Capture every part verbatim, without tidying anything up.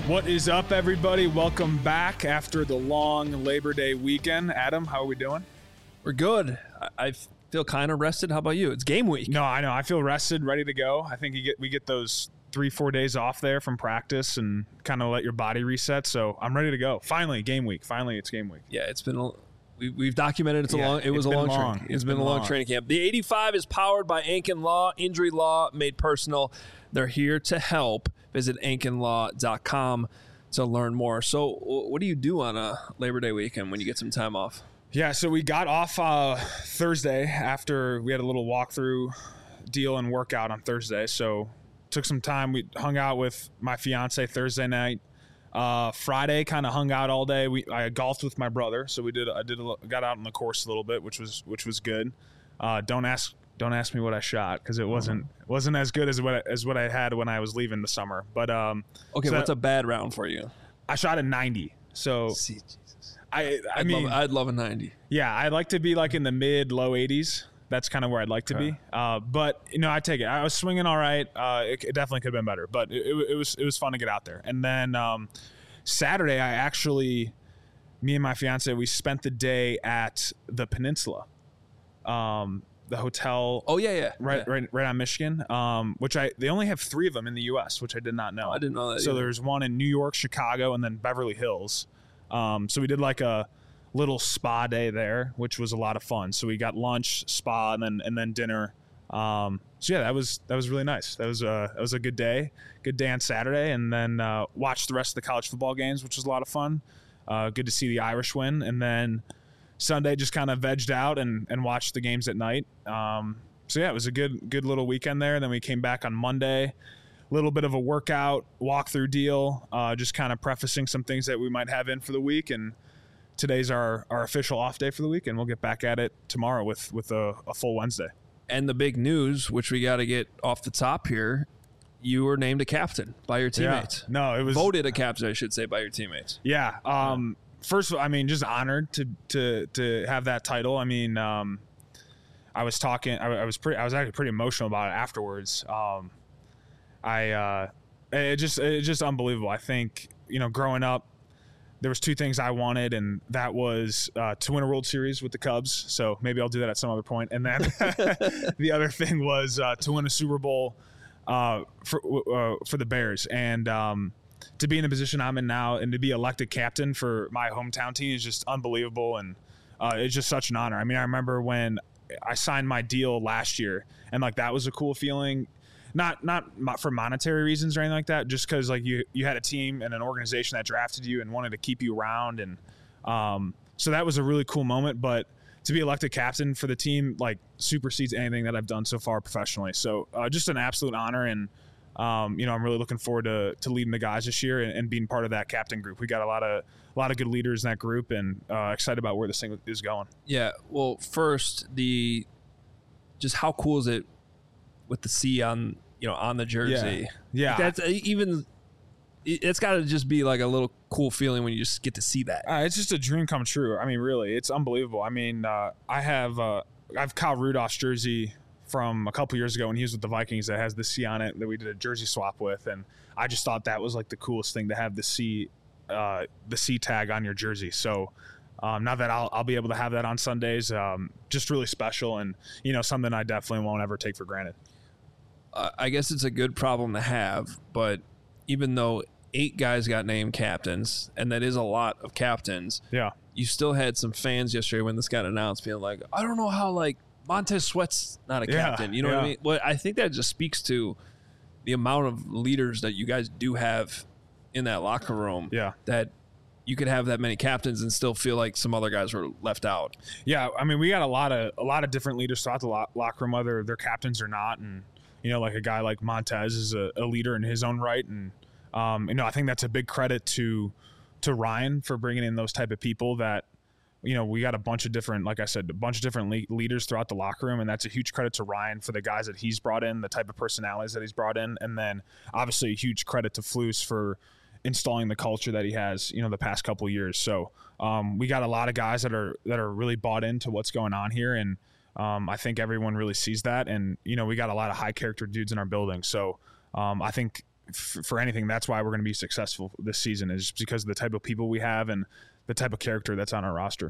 What is up, everybody? Welcome back after the long Labor Day weekend. Adam, how are we doing? We're good. I, I feel kind of rested. How about you? It's game week. No, I know. I feel rested, ready to go. I think you get we get those three, four days off there from practice and kind of let your body reset. So I'm ready to go. Finally, game week. Finally, it's game week. Yeah, it's been a, we, we've documented it's a Yeah, long. It was it's a been long. long. Training. It's it's been, been a long, long. training camp. The eighty-five is powered by Ankin Law. Injury Law made personal. They're here to help. Visit ankin law dot com to learn more. So, what do you do on a Labor Day weekend when you get some time off? Yeah, so we got off uh, Thursday after we had a little walkthrough deal and workout on Thursday. So took some time. We hung out with my fiance Thursday night. Uh, Friday, kind of hung out all day. We I golfed with my brother, so we did. I did a, got out on the course a little bit, which was which was good. Uh, don't ask don't ask me what I shot because it wasn't wasn't as good as what I, as what I had when I was leaving the summer. But um, Okay, so what's a bad round for you? I shot a ninety. So See, Jesus. I I I'd mean love, I'd love a ninety. yeah, I'd like to be like in the mid low eighties. That's kind of where I'd like to Okay. be. Uh, but you know, I take it. I was swinging all right. Uh, it, it definitely could have been better, but it, it, it was it was fun to get out there. And then um, Saturday, I actually, me and my fiance, we spent the day at the Peninsula, um, the hotel. Oh yeah, yeah. Right, yeah. right, right on Michigan. Um, which I they only have three of them in the U S, which I did not know. I didn't know that So either. there's one in New York, Chicago, and then Beverly Hills. Um, so we did like a little spa day there, which was a lot of fun. So we got lunch, spa, and then and then dinner. Um, so yeah, that was that was really nice. That was a that was a good day, good day on Saturday, and then uh, watched the rest of the college football games, which was a lot of fun. Uh, good to see the Irish win, and then Sunday just kind of vegged out and and watched the games at night. Um, so yeah, it was a good good little weekend there. Then we came back on Monday. Little bit of a workout walkthrough deal, uh, just kind of prefacing some things that we might have in for the week. And today's our, our official off day for the week, and we'll get back at it tomorrow with with a, a full Wednesday. And the big news, which we got to get off the top here, you were named a captain by your teammates. Yeah. No, it was Voted a captain, I should say, by your teammates. Yeah. Um, first of all, I mean, just honored to to to have that title. I mean, um, I was talking. I, I was pretty. I was actually pretty emotional about it afterwards. Um, I uh, it just it's just unbelievable. I think you know, growing up, there was two things I wanted, and that was uh, to win a World Series with the Cubs. So maybe I'll do that at some other point. And then the other thing was uh, to win a Super Bowl uh, for uh, for the Bears. And um, to be in the position I'm in now and to be elected captain for my hometown team is just unbelievable. And uh, it's just such an honor. I mean, I remember when I signed my deal last year, and like that was a cool feeling. Not not mo- for monetary reasons or anything like that, just because like you you had a team and an organization that drafted you and wanted to keep you around, and um, so that was a really cool moment. But to be elected captain for the team like supersedes anything that I've done so far professionally. So uh, just an absolute honor, and um, you know I'm really looking forward to to leading the guys this year and, and being part of that captain group. We got a lot of a lot of good leaders in that group, and uh, excited about where this thing is going. Yeah. Well, first, the just how cool is it with the C on you know on the jersey? Yeah. Like that's uh, even. it- It's got to just be like a little cool feeling when you just get to see that. Uh, it's just a dream come true. I mean, really, it's unbelievable. I mean, uh, I have uh, I have Kyle Rudolph's jersey from a couple years ago when he was with the Vikings that has the C on it that we did a jersey swap with, and I just thought that was like the coolest thing to have the C, uh, the C tag on your jersey. So um, now that I'll I'll be able to have that on Sundays, um, just really special, and you know something I definitely won't ever take for granted. Uh, I guess it's a good problem to have, but even though eight guys got named captains, and that is a lot of captains, Yeah. you still had some fans yesterday when this got announced being like, I don't know how like Montez Sweat's not a Yeah, captain. You know what I yeah. mean? Well, I think that just speaks to the amount of leaders that you guys do have in that locker room. Yeah. That you could have that many captains and still feel like some other guys were left out. Yeah, I mean, we got a lot of a lot of different leaders throughout the lo- locker room, whether they're captains or not, and you know, like a guy like Montez is a, a leader in his own right, and um, you know, I think that's a big credit to to Ryan for bringing in those type of people. That you know, we got a bunch of different, like I said, a bunch of different le- leaders throughout the locker room, and that's a huge credit to Ryan for the guys that he's brought in, the type of personalities that he's brought in, and then obviously a huge credit to Flus for installing the culture that he has, you know, the past couple of years. So um, we got a lot of guys that are that are really bought into what's going on here, and um, I think everyone really sees that. And you know, we got a lot of high character dudes in our building. So um, I think f- for anything, that's why we're going to be successful this season, is because of the type of people we have and the type of character that's on our roster.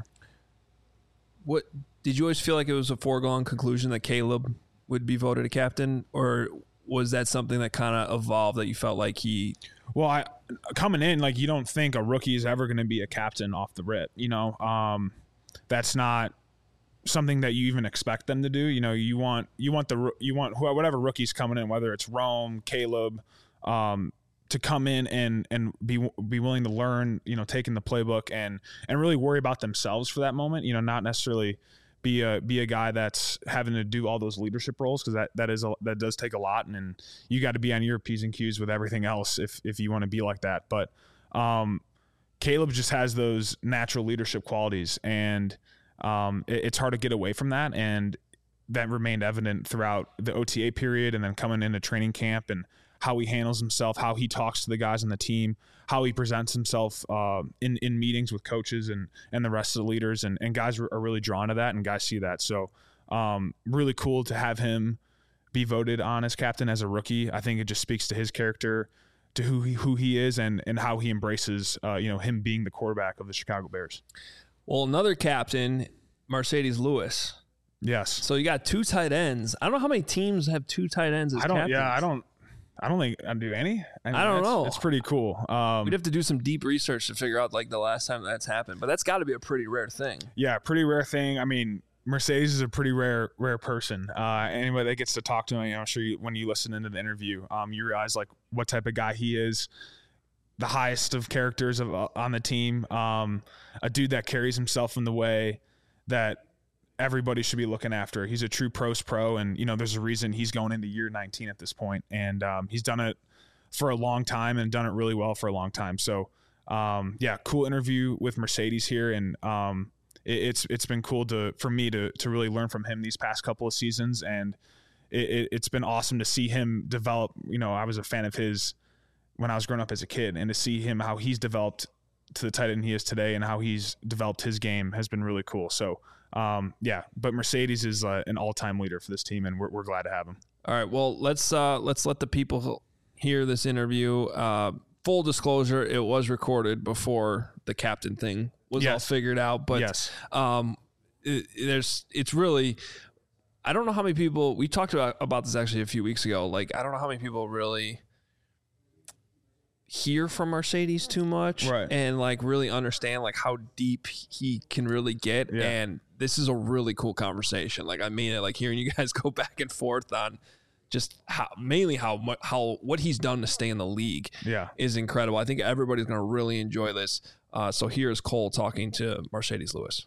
What did you always feel like it was a foregone conclusion that Caleb would be voted a captain, or was that something that kind of evolved that you felt like he? Well, I coming in, like, you don't think a rookie is ever going to be a captain off the rip. You know, um, that's not something that you even expect them to do. You know, you want you want the you want whatever rookie's coming in, whether it's Rome, Caleb, um, to come in and and be be willing to learn. You know, taking the playbook and and really worry about themselves for that moment. You know, not necessarily be a be a guy that's having to do all those leadership roles, because that that is a, that does take a lot, and, and you got to be on your P's and Q's with everything else if if you want to be like that. But um, Caleb just has those natural leadership qualities, and um, it, it's hard to get away from that, and that remained evident throughout the O T A period, and then coming into training camp, and how he handles himself, how he talks to the guys on the team, how he presents himself uh, in, in meetings with coaches and, and the rest of the leaders. And, and guys are really drawn to that, and guys see that. So um, really cool to have him be voted on as captain as a rookie. I think it just speaks to his character, to who he, who he is, and, and how he embraces, uh, you know, him being the quarterback of the Chicago Bears. Well, another captain, Marcedes Lewis. Yes. So you got two tight ends. I don't know how many teams have two tight ends as I don't, captains. Yeah, I don't. I don't think I do any. I, mean, I don't that's, know. It's pretty cool. Um, We'd have to do some deep research to figure out like the last time that's happened, but that's got to be a pretty rare thing. Yeah, pretty rare thing. I mean, Marcedes is a pretty rare rare person. Uh, anybody that gets to talk to him, you know, I'm sure you, when you listen into the interview, um, you realize like what type of guy he is. The highest of characters of, uh, on the team. Um, a dude that carries himself in the way that everybody should be looking after. He's a true pros pro, and you know there's a reason he's going into year nineteen at this point, and um, he's done it for a long time and done it really well for a long time. So um, yeah, cool interview with Marcedes here, and um, it, it's it's been cool to for me to to really learn from him these past couple of seasons, and it, it, it's been awesome to see him develop. You know, I was a fan of his when I was growing up as a kid, and to see him how he's developed to the tight end he is today, and how he's developed his game has been really cool. So. Um, yeah, but Marcedes is uh, an all-time leader for this team, and we're, we're glad to have him. All right, well, let's uh, let's let the people hear this interview. Uh, full disclosure, it was recorded before the captain thing was yes. all figured out, but yes. um, it, there's it's really I don't know how many people we talked about about this actually a few weeks ago. Like I don't know how many people really hear from Marcedes too much, right. and like really understand like how deep he can really get. Yeah. And this is a really cool conversation. Like I mean it, like hearing you guys go back and forth on just how mainly how much how what he's done to stay in the league yeah. is incredible. I think everybody's going to really enjoy this. Uh, so here's Cole talking to Marcedes Lewis.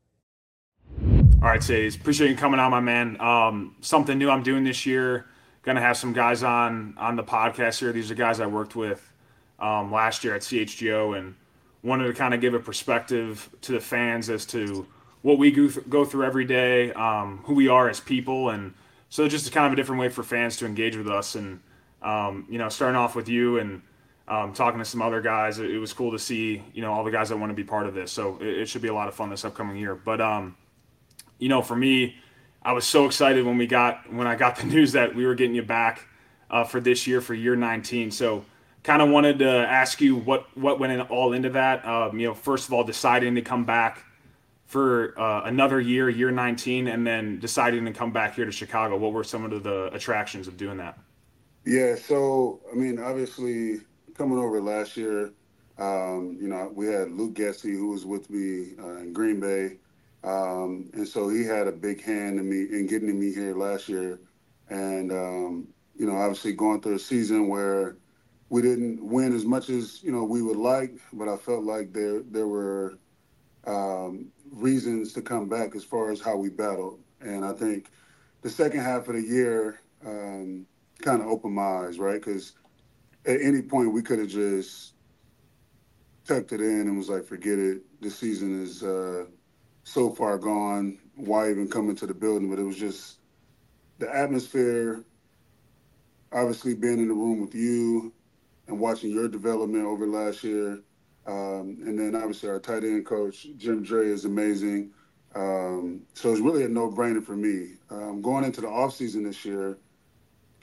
All right, Sades, appreciate you coming on, my man. Um, something new I'm doing this year. Going to have some guys on on the podcast here. These are guys I worked with Um, last year at C H G O, and wanted to kind of give a perspective to the fans as to what we go, th- go through every day, um, who we are as people, and so just a kind of a different way for fans to engage with us. And um, you know, starting off with you and um, talking to some other guys, it, it was cool to see you know all the guys that want to be part of this. So it, it should be a lot of fun this upcoming year. But um, you know, for me, I was so excited when we got when I got the news that we were getting you back uh, for this year for year nineteen. So. Kind of wanted to ask you what, what went in, all into that. Um, you know, first of all, deciding to come back for uh, another year, year nineteen, and then deciding to come back here to Chicago. What were some of the attractions of doing that? Yeah, so, I mean, obviously, coming over last year, um, you know, we had Luke Getsy, who was with me uh, in Green Bay. Um, and so he had a big hand in me in getting me here last year. And, um, you know, obviously going through a season where we didn't win as much as, you know, we would like, but I felt like there there were um, reasons to come back as far as how we battled. And I think the second half of the year um, kind of opened my eyes, right? Because at any point we could have just tucked it in and was like, forget it. This season is uh, so far gone. Why even come into the building? But it was just the atmosphere, obviously being in the room with you, and watching your development over last year. Um, and then obviously our tight end coach, Jim Dre, is amazing. Um, so it's really a no-brainer for me. Um, going into the offseason this year,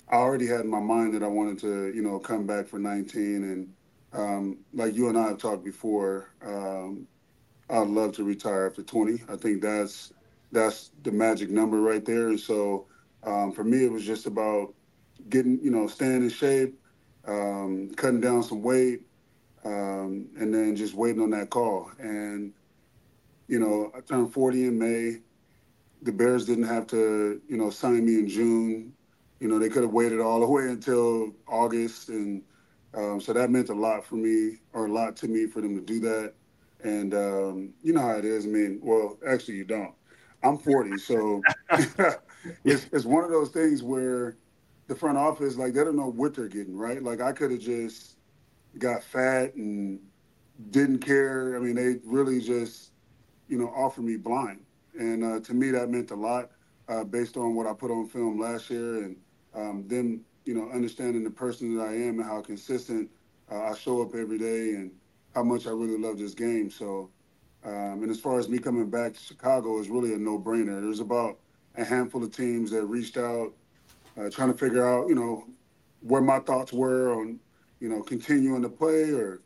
I already had in my mind that I wanted to, you know, come back for nineteen. And um, like you and I have talked before, um, I'd love to retire after twenty. I think that's that's the magic number right there. And so um, for me, it was just about getting, you know, staying in shape, um, cutting down some weight, um, and then just waiting on that call. And you know, I turned forty in May. The Bears didn't have to, you know, sign me in June. You know, they could have waited all the way until August, and um, so that meant a lot for me, or a lot to me, for them to do that. And um, you know how it is. I mean, well, actually, you don't. I'm forty, so it's it's one of those things where the front office, like, they don't know what they're getting, right? Like, I could have just got fat and didn't care. I mean, they really just, you know, offered me blind. And uh, to me, that meant a lot uh, based on what I put on film last year, and um, them, you know, understanding the person that I am and how consistent uh, I show up every day, and how much I really love this game. So, um, and as far as me coming back to Chicago, is really a no-brainer. There's about a handful of teams that reached out, uh, trying to figure out, you know, where my thoughts were on, you know, continuing to play, or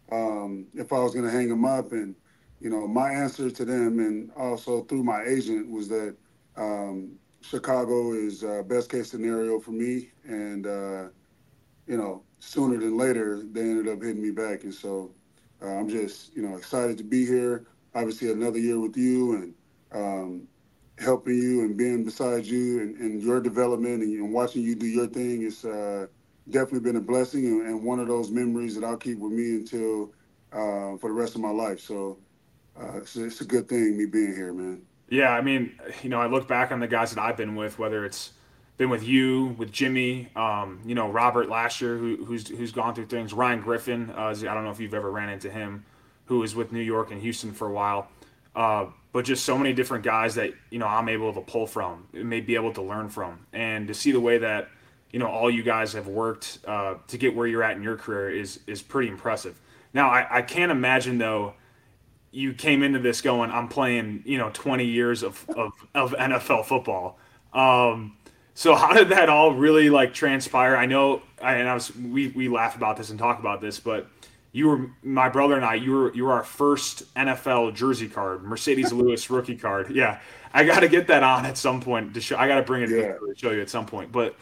um, if I was going to hang them up. And you know, my answer to them, and also through my agent, was that um, Chicago is uh, best case scenario for me. And, uh, you know, sooner than later, they ended up hitting me back. And so uh, I'm just, you know, excited to be here. Obviously, another year with you, and um, helping you and being beside you, and, and your development, and, and watching you do your thing. It's uh, definitely been a blessing, and, and one of those memories that I'll keep with me until uh, for the rest of my life. So, Uh, it's, it's a good thing, me being here, man. Yeah, I mean, you know, I look back on the guys that I've been with, whether it's been with you, with Jimmy, um, you know, Robert last year, who, who's who's gone through things. Ryan Griffin, uh, I don't know if you've ever ran into him, who was with New York and Houston for a while. Uh, but just so many different guys that, you know, I'm able to pull from, may be able to learn from, and to see the way that, you know, all you guys have worked uh, to get where you're at in your career is is pretty impressive. Now, I, I can't imagine though you came into this going, I'm playing, you know, twenty years of, of, of N F L football. Um, so how did that all really like transpire? I know, and I was, we, we laugh about this and talk about this, but you were, my brother and I, you were, you were our first N F L jersey card, Mercedes Lewis rookie card. Yeah. I got to get that on at some point to show, I got to bring it Yeah. to show you at some point, but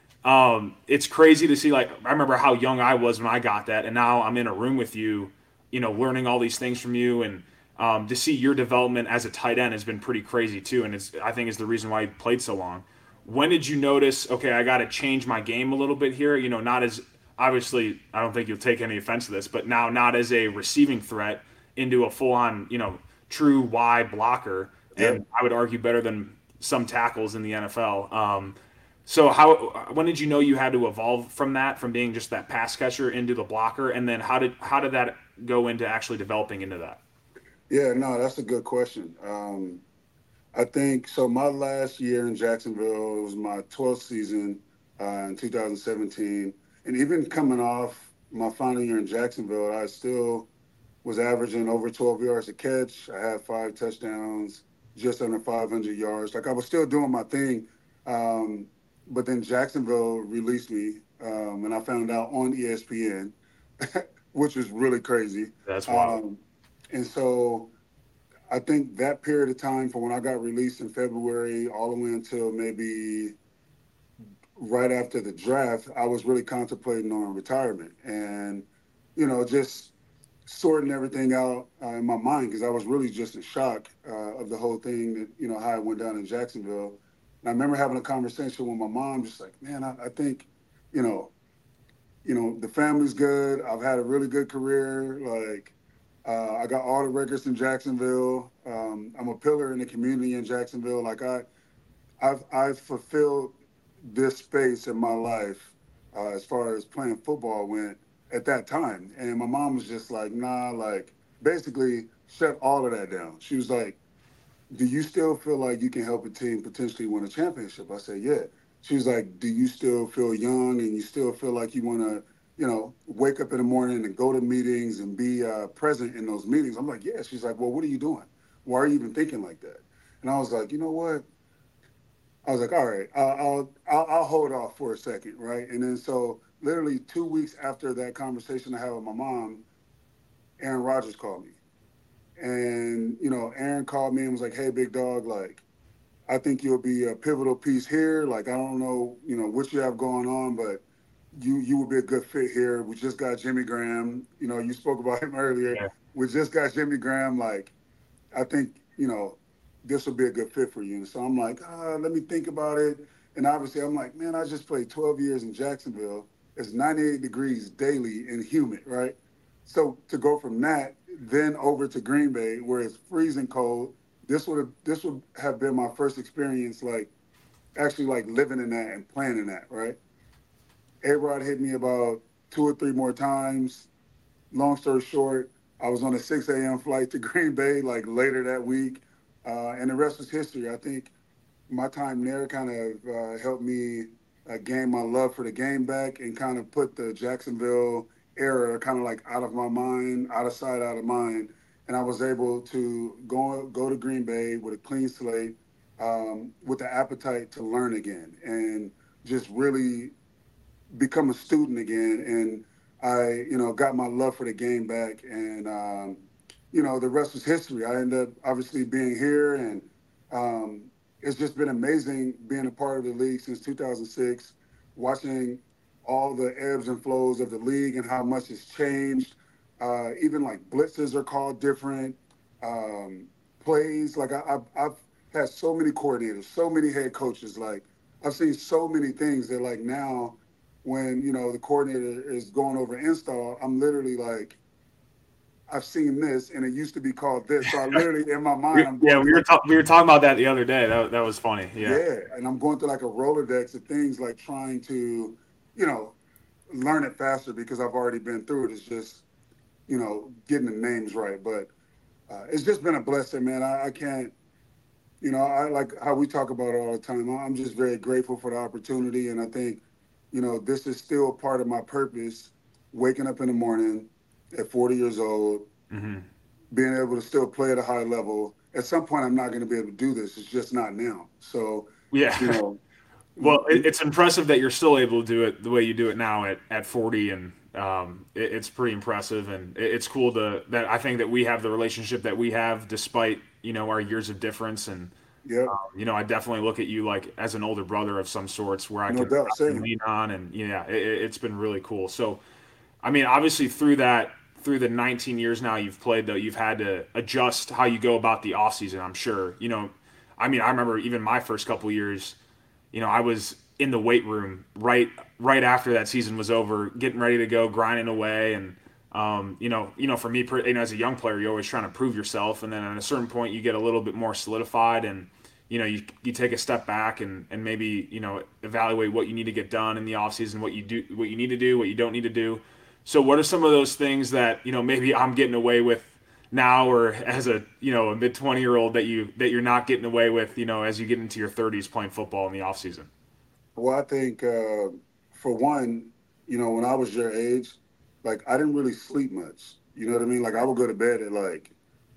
um, it's crazy to see, like, I remember how young I was when I got that. And now I'm in a room with you, you know, learning all these things from you, and um, to see your development as a tight end has been pretty crazy too. And it's, I think, is the reason why you played so long. When did you notice, okay, I got to change my game a little bit here? You know, not as, obviously, I don't think you'll take any offense to this, but now not as a receiving threat into a full on, you know, true Y blocker. And Yep. I would argue better than some tackles in the N F L. Um, so how, when did you know you had to evolve from that, from being just that pass catcher into the blocker? And then how did, how did that go into actually developing into that? Yeah, no, that's a good question. Um, I think so. My last year in Jacksonville, it was my twelfth season uh, in two thousand seventeen. And even coming off my final year in Jacksonville, I still was averaging over twelve yards a catch. I had five touchdowns, just under five hundred yards. Like, I was still doing my thing. Um, but then Jacksonville released me, um, and I found out on E S P N, which was really crazy. That's wild. Um, and so I think that period of time from when I got released in February all the way until maybe right after the draft, I was really contemplating on retirement, and, you know, just sorting everything out uh, in my mind, because I was really just in shock uh, of the whole thing, that, you know, how it went down in Jacksonville. And I remember having a conversation with my mom, just like, man, I, I think, you know, you know, the family's good. I've had a really good career. Like, uh, I got all the records in Jacksonville. Um, I'm a pillar in the community in Jacksonville. Like, I, I've, I've fulfilled this space in my life uh, as far as playing football went at that time. And my mom was just like, nah, like, basically shut all of that down. She was like, do you still feel like you can help a team potentially win a championship? I said, yeah. She was like, do you still feel young and you still feel like you want to, you know, wake up in the morning and go to meetings and be uh, present in those meetings? I'm like, yeah. She's like, well, what are you doing? Why are you even thinking like that? And I was like, you know what? I was like, all right, I'll, I'll I'll I'll hold off for a second, right? And then so literally two weeks after that conversation I had with my mom, Aaron Rodgers called me, and you know, Aaron called me and was like, hey, big dog, like, I think you'll be a pivotal piece here. Like, I don't know, you know, what you have going on, but you you would be a good fit here. We just got Jimmy Graham. You know, you spoke about him earlier. Yeah. We just got Jimmy Graham. Like, I think, you know, this will be a good fit for you. And so I'm like, ah, let me think about it. And obviously I'm like, man, I just played twelve years in Jacksonville. It's ninety-eight degrees daily and humid, right? So to go from that then over to Green Bay where it's freezing cold, this would have this would have been my first experience like actually like living in that and playing in that, right? A-Rod hit me about two or three more times. Long story short, I was on a six a.m. flight to Green Bay like later that week, uh, and the rest was history. I think my time there kind of uh, helped me uh, gain my love for the game back and kind of put the Jacksonville era kind of like out of my mind, out of sight, out of mind. And I was able to go go to Green Bay with a clean slate, um, with the appetite to learn again and just really become a student again. And I, you know, got my love for the game back. And, um, you know, the rest was history. I ended up obviously being here, and um, it's just been amazing being a part of the league since two thousand six, watching all the ebbs and flows of the league and how much it's changed. Uh, even like blitzes are called different. Um, plays, like I, I've, I've had so many coordinators, so many head coaches. Like I've seen so many things that like now when, you know, the coordinator is going over install, I'm literally like, I've seen this and it used to be called this. So I literally in my mind, I'm Yeah, going we were like, ta- we were talking about that the other day. That that was funny. Yeah. yeah, and I'm going through like a Rolodex of things, like trying to, you know, learn it faster because I've already been through it. It's just, you know, getting the names right. But uh, it's just been a blessing, man. I, I can't, you know, I like how we talk about it all the time. I'm just very grateful for the opportunity. And I think, you know, this is still part of my purpose, waking up in the morning at forty years old, Mm-hmm. being able to still play at a high level. At some point, I'm not going to be able to do this. It's just not now. So, Yeah. you know, Well, it, it's impressive that you're still able to do it the way you do it now at, at forty, and um, it, it's pretty impressive, and it, it's cool to that. I think that we have the relationship that we have, despite you know our years of difference, and yep, um, you know I definitely look at you like as an older brother of some sorts, where I no can, doubt. I can Same. lean on, and yeah, it, it's been really cool. So, I mean, obviously through that, through the nineteen years now you've played, though, you've had to adjust how you go about the off season. I'm sure, you know, I mean, I remember even my first couple years. You know, I was in the weight room right right after that season was over, getting ready to go, grinding away, and um, you know, you know, for me, you know, as a young player, you're always trying to prove yourself, and then at a certain point, you get a little bit more solidified, and you know, you you take a step back and and maybe you know evaluate what you need to get done in the offseason, what you do, what you need to do, what you don't need to do. So, what are some of those things that you know maybe I'm getting away with now, or as a you know a mid twenty year old that you that you're not getting away with, you know, as you get into your thirties playing football in the off season? Well, I think uh, for one, you know, when I was your age, like I didn't really sleep much. You know what I mean? Like I would go to bed at like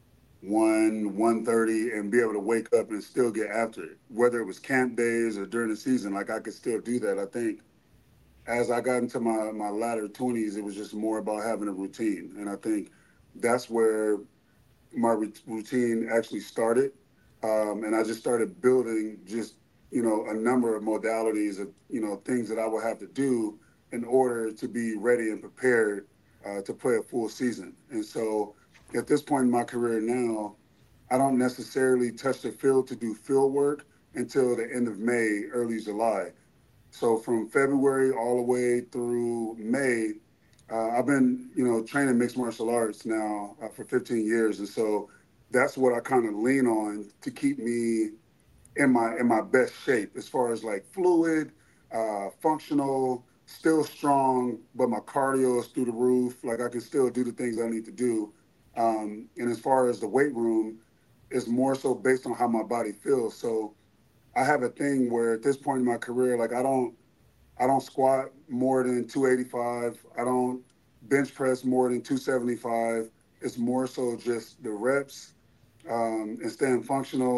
one, one thirty and be able to wake up and still get after it. Whether it was camp days or during the season, like I could still do that. I think as I got into my my latter twenties, it was just more about having a routine. And I think that's where my routine actually started. Um, and I just started building just, you know, a number of modalities of, you know, things that I would have to do in order to be ready and prepared uh, to play a full season. And so at this point in my career now, I don't necessarily touch the field to do field work until the end of May, early July. So from February all the way through May, uh, I've been, you know, training mixed martial arts now uh, for fifteen years, and so that's what I kind of lean on to keep me in my in my best shape as far as like fluid, uh, functional, still strong, but my cardio is through the roof. Like I can still do the things I need to do. Um, and as far as the weight room, it's more so based on how my body feels. So I have a thing where at this point in my career, like I don't I don't squat more than two eighty-five. I don't bench press more than two seventy-five. It's more so just the reps um, and staying functional.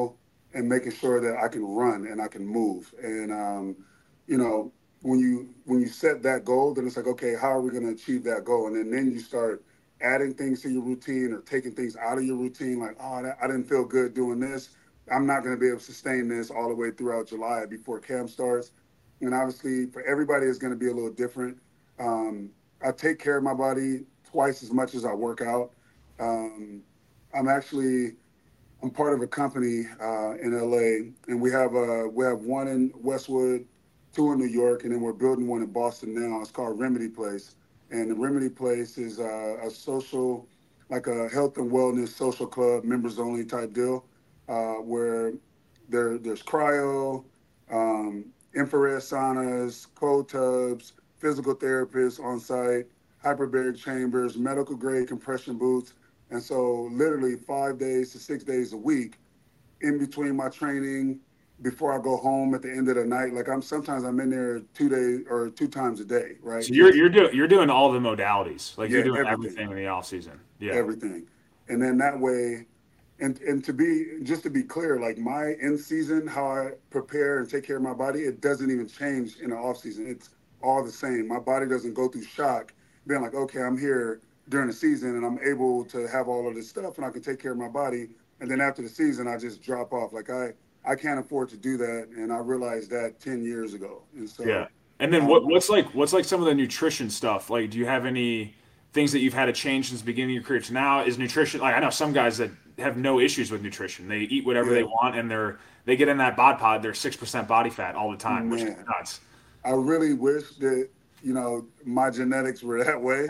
and making sure that I can run and I can move. And, um, you know, when you when you set that goal, then it's like, okay, how are we going to achieve that goal? And then, then you start adding things to your routine or taking things out of your routine, like, oh, that, I didn't feel good doing this. I'm not going to be able to sustain this all the way throughout July before camp starts. And obviously, for everybody, it's going to be a little different. Um, I take care of my body twice as much as I work out. Um, I'm actually I'm part of a company uh, in L A, and we have a we have one in Westwood, two in New York, and then we're building one in Boston now. It's called Remedy Place, and the Remedy Place is uh, a social, like a health and wellness social club, members only type deal, uh, where there there's cryo, um, infrared saunas, cold tubs, physical therapists on site, hyperbaric chambers, medical grade compression boots. And so literally five days to six days a week in between my training, before I go home at the end of the night, like I'm sometimes I'm in there two days or two times a day, right? So you're you're doing you're doing all the modalities, like Yeah, you're doing everything. everything in the off season. Yeah, Everything. And then that way, and and to be just to be clear, like my in season, how I prepare and take care of my body, it doesn't even change in the off season. It's all the same. My body doesn't go through shock, being like, okay, I'm here during the season and I'm able to have all of this stuff and I can take care of my body. And then after the season, I just drop off. Like I I can't afford to do that, and I realized that ten years ago. And so yeah. And then um, what what's like what's like some of the nutrition stuff? Like, do you have any things that you've had to change since the beginning of your career to now? Is nutrition like I know some guys that have no issues with nutrition. They eat whatever yeah, they want, and they're they get in that bod pod. They're six percent body fat all the time, which is man. nuts. I really wish that, you know, my genetics were that way.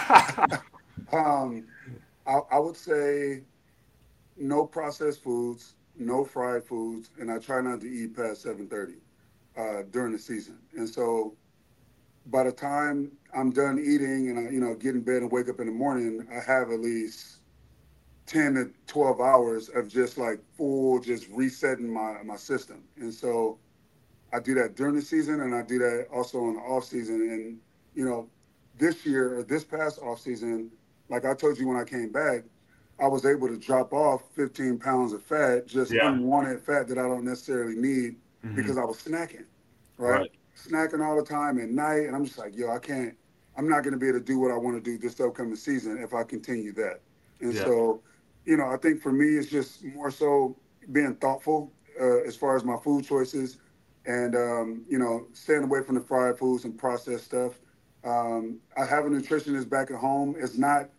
um, I, I would say no processed foods, no fried foods, and I try not to eat past seven thirty uh, during the season. And so by the time I'm done eating and I, you know, get in bed and wake up in the morning, I have at least ten to twelve hours of just like full, just resetting my, my system. And so I do that during the season, and I do that also in the off season. And you know, this year or this past off season, like I told you when I came back, I was able to drop off fifteen pounds of fat, just Yeah. unwanted fat that I don't necessarily need Mhm. because I was snacking, right? Right. Snacking all the time at night, and I'm just like, yo, I can't. I'm not going to be able to do what I want to do this upcoming season if I continue that. And Yeah. so, you know, I think for me, it's just more so being thoughtful uh, as far as my food choices. And, um, you know, staying away from the fried foods and processed stuff. Um, I have a nutritionist back at home. It's not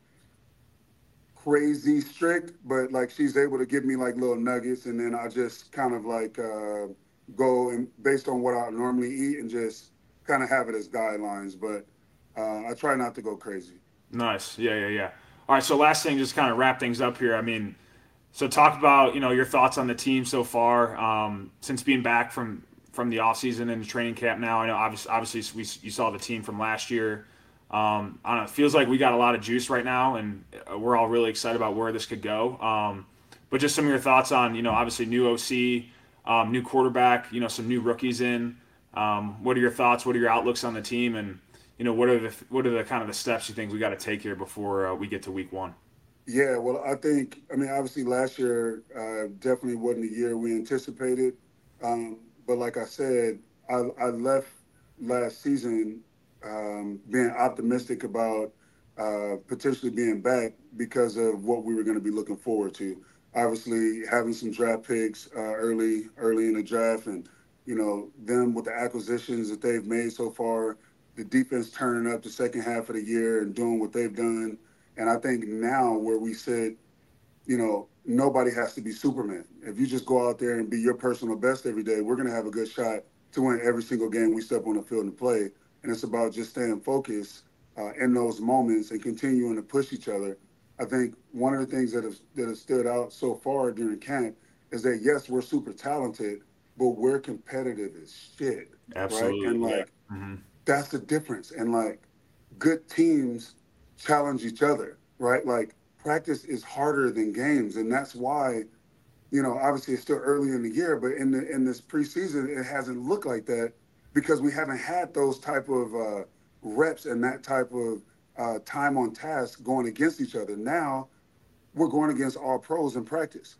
crazy strict, but like she's able to give me like little nuggets. And then I just kind of like uh, go and based on what I normally eat and just kind of have it as guidelines. But uh, I try not to go crazy. Nice. Yeah, yeah, yeah. All right. So last thing, just kind of wrap things up here. I mean, so talk about you know your thoughts on the team so far um, since being back from from the off season and the training camp. Now I know obviously, obviously we you saw the team from last year. Um, I don't know. It feels like we got a lot of juice right now, and we're all really excited about where this could go. Um, but just some of your thoughts on you know obviously new O C, um, new quarterback, you know some new rookies in. Um, what are your thoughts? What are your outlooks on the team? And you know, what are the what are the kind of the steps you think we got to take here before uh, we get to week one? Yeah, well, I think, I mean, obviously last year uh, definitely wasn't the year we anticipated. Um, but like I said, I, I left last season um, being optimistic about uh, potentially being back because of what we were going to be looking forward to. Obviously, having some draft picks uh, early, early in the draft, and you know them with the acquisitions that they've made so far, the defense turning up the second half of the year and doing what they've done. And I think now where we sit, you know, nobody has to be Superman. If you just go out there and be your personal best every day, we're going to have a good shot to win every single game we step on the field and play. And it's about just staying focused uh, in those moments and continuing to push each other. I think one of the things that has, that has stood out so far during camp is that, yes, we're super talented, but we're competitive as shit. Absolutely. Right? And Yeah. like, Mm-hmm. that's the difference. And like, good teams challenge each other, right? Like practice is harder than games. And that's why, you know, obviously it's still early in the year, but in the in this preseason, it hasn't looked like that because we haven't had those type of uh, reps and that type of uh, time on task going against each other. Now we're going against all pros in practice.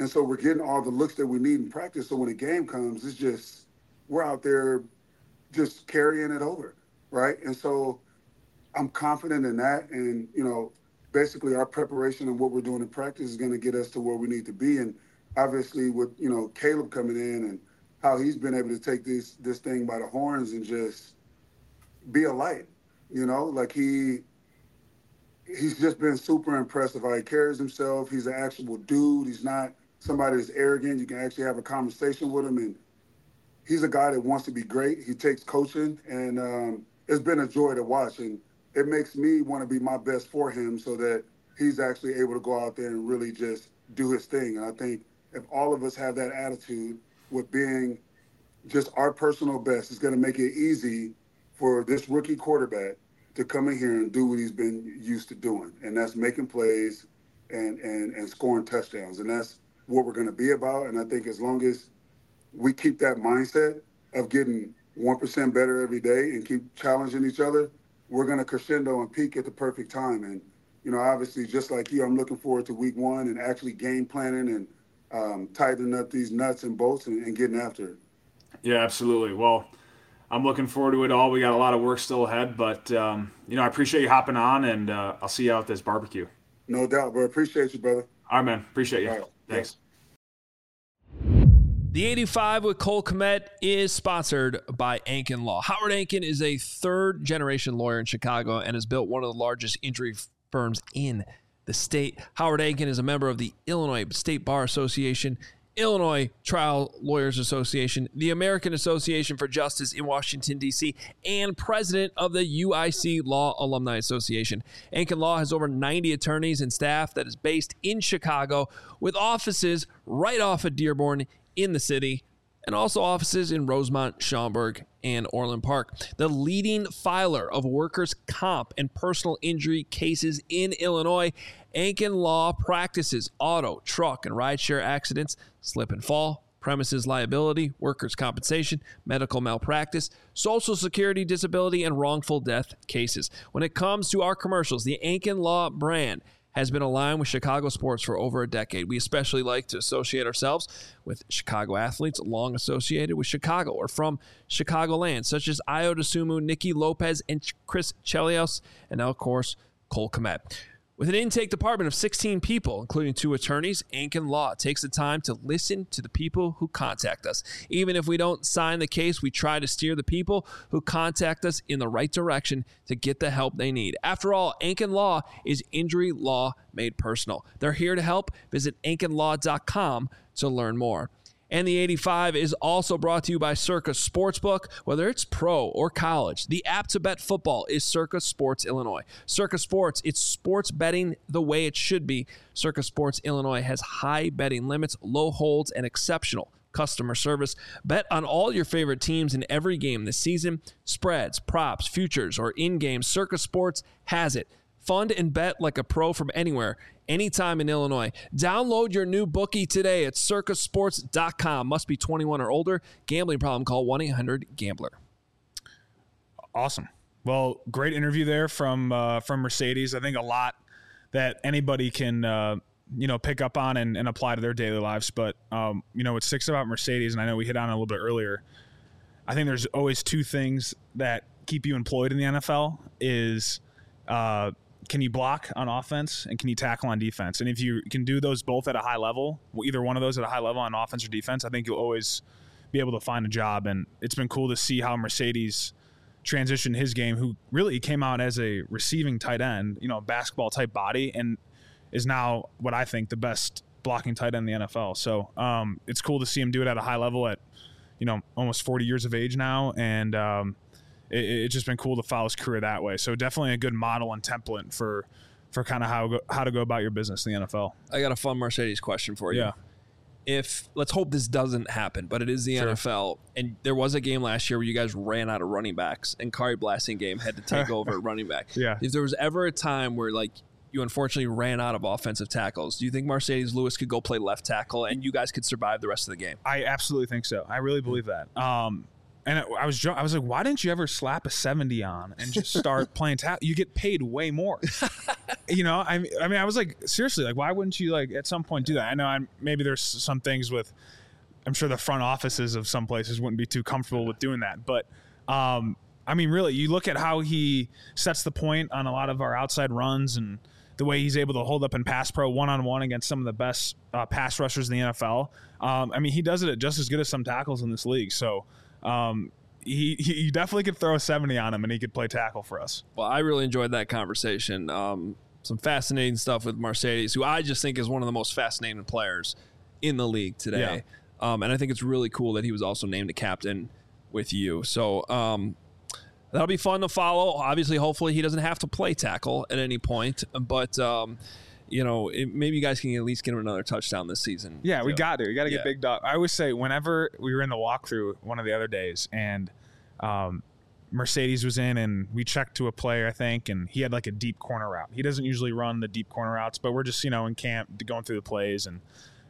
And so we're getting all the looks that we need in practice. So when a game comes, it's just, we're out there just carrying it over, right? And so I'm confident in that. And, you know, basically our preparation and what we're doing in practice is going to get us to where we need to be. And obviously with, you know, Caleb coming in and how he's been able to take this this thing by the horns and just be a light, you know, like he he's just been super impressive how he carries himself. He's an actual dude. He's not somebody that's arrogant. You can actually have a conversation with him, and he's a guy that wants to be great. He takes coaching, and um, it's been a joy to watch. And it makes me want to be my best for him so that he's actually able to go out there and really just do his thing. And I think if all of us have that attitude with being just our personal best, it's going to make it easy for this rookie quarterback to come in here and do what he's been used to doing. And that's making plays and, and, and scoring touchdowns. And that's what we're going to be about. And I think as long as we keep that mindset of getting one percent better every day and keep challenging each other, we're going to crescendo and peak at the perfect time. And, you know, obviously, just like you, I'm looking forward to week one and actually game planning and um, tightening up these nuts and bolts and, and getting after it. Yeah, absolutely. Well, I'm looking forward to it all. We got a lot of work still ahead, but, um, you know, I appreciate you hopping on, and uh, I'll see you out at this barbecue. No doubt, bro. Appreciate you, brother. All right, man. Appreciate you. All right. Thanks. The eighty-five with Cole Kmet is sponsored by Ankin Law. Howard Ankin is a third-generation lawyer in Chicago and has built one of the largest injury firms in the state. Howard Ankin is a member of the Illinois State Bar Association, Illinois Trial Lawyers Association, the American Association for Justice in Washington, D C, and president of the U I C Law Alumni Association. Ankin Law has over ninety attorneys and staff that is based in Chicago with offices right off of Dearborn in the city, and also offices in Rosemont, Schaumburg, and Orland Park. The leading filer of workers' comp and personal injury cases in Illinois, Ankin Law practices auto, truck, and rideshare accidents, slip and fall, premises liability, workers' compensation, medical malpractice, social security disability, and wrongful death cases. When it comes to our commercials, the Ankin Law brand has been aligned with Chicago sports for over a decade. We especially like to associate ourselves with Chicago athletes long associated with Chicago or from Chicagoland, such as Ayo Dosunmu, Nicky Lopez, and Chris Chelios, and now, of course, Cole Kmet. With an intake department of sixteen people, including two attorneys, Ankin Law takes the time to listen to the people who contact us. Even if we don't sign the case, we try to steer the people who contact us in the right direction to get the help they need. After all, Ankin Law is injury law made personal. They're here to help. Visit ankin law dot com to learn more. And the eighty-five is also brought to you by Circa Sportsbook. Whether it's pro or college, the app to bet football is Circa Sports Illinois. Circa Sports, it's sports betting the way it should be. Circa Sports Illinois has high betting limits, low holds, and exceptional customer service. Bet on all your favorite teams in every game this season. Spreads, props, futures, or in-game, Circa Sports has it. Fund and bet like a pro from anywhere, anytime in Illinois. Download your new bookie today at circa sports dot com. Must be twenty-one or older. Gambling problem, call one eight hundred gambler. Awesome. Well, great interview there from uh, from Mercedes. I think a lot that anybody can uh, you know pick up on and, and apply to their daily lives. But um, you know what sticks about Mercedes, and I know we hit on it a little bit earlier. I think there's always two things that keep you employed in the N F L is uh, can you block on offense and can you tackle on defense? And if you can do those both at a high level, either one of those at a high level on offense or defense, I think you'll always be able to find a job. And it's been cool to see how Mercedes transitioned his game, who really came out as a receiving tight end, you know, basketball type body, and is now what I think the best blocking tight end in the N F L. So um, it's cool to see him do it at a high level at, you know, almost forty years of age now. And, um, It, it's just been cool to follow his career that way. So definitely a good model and template for for kind of how go, how to go about your business in the N F L. I got a fun Mercedes question for you. Yeah. If let's hope this doesn't happen, but it is the Sure. N F L, and there was a game last year where you guys ran out of running backs, and Kari Blasingame had to take over at running back. Yeah. If there was ever a time where like you unfortunately ran out of offensive tackles, do you think Mercedes Lewis could go play left tackle and you guys could survive the rest of the game? I absolutely think so. I really believe that. Um, and I was I was like, why didn't you ever slap a seventy on and just start playing tackle? You get paid way more. You know, I I mean, I was like, seriously, like, why wouldn't you like at some point do that? I know I'm, maybe there's some things with, I'm sure the front offices of some places wouldn't be too comfortable with doing that, but um, I mean, really, you look at how he sets the point on a lot of our outside runs and the way he's able to hold up in pass pro one-on-one against some of the best uh, pass rushers in the N F L. Um, I mean, he does it at just as good as some tackles in this league. So um, he, he definitely could throw a seventy on him and he could play tackle for us. Well, I really enjoyed that conversation. Um, some fascinating stuff with Marcedes, who I just think is one of the most fascinating players in the league today. Yeah. Um, and I think it's really cool that he was also named a captain with you. So um, that'll be fun to follow. Obviously, hopefully he doesn't have to play tackle at any point, but um, you know, it, maybe you guys can at least get him another touchdown this season. Yeah, we got to. We got to yeah. get Big Dog. I always say whenever we were in the walkthrough one of the other days and um, Marcedes was in and we checked to a player, I think, and he had like a deep corner route. He doesn't usually run the deep corner routes, but we're just, you know, in camp going through the plays and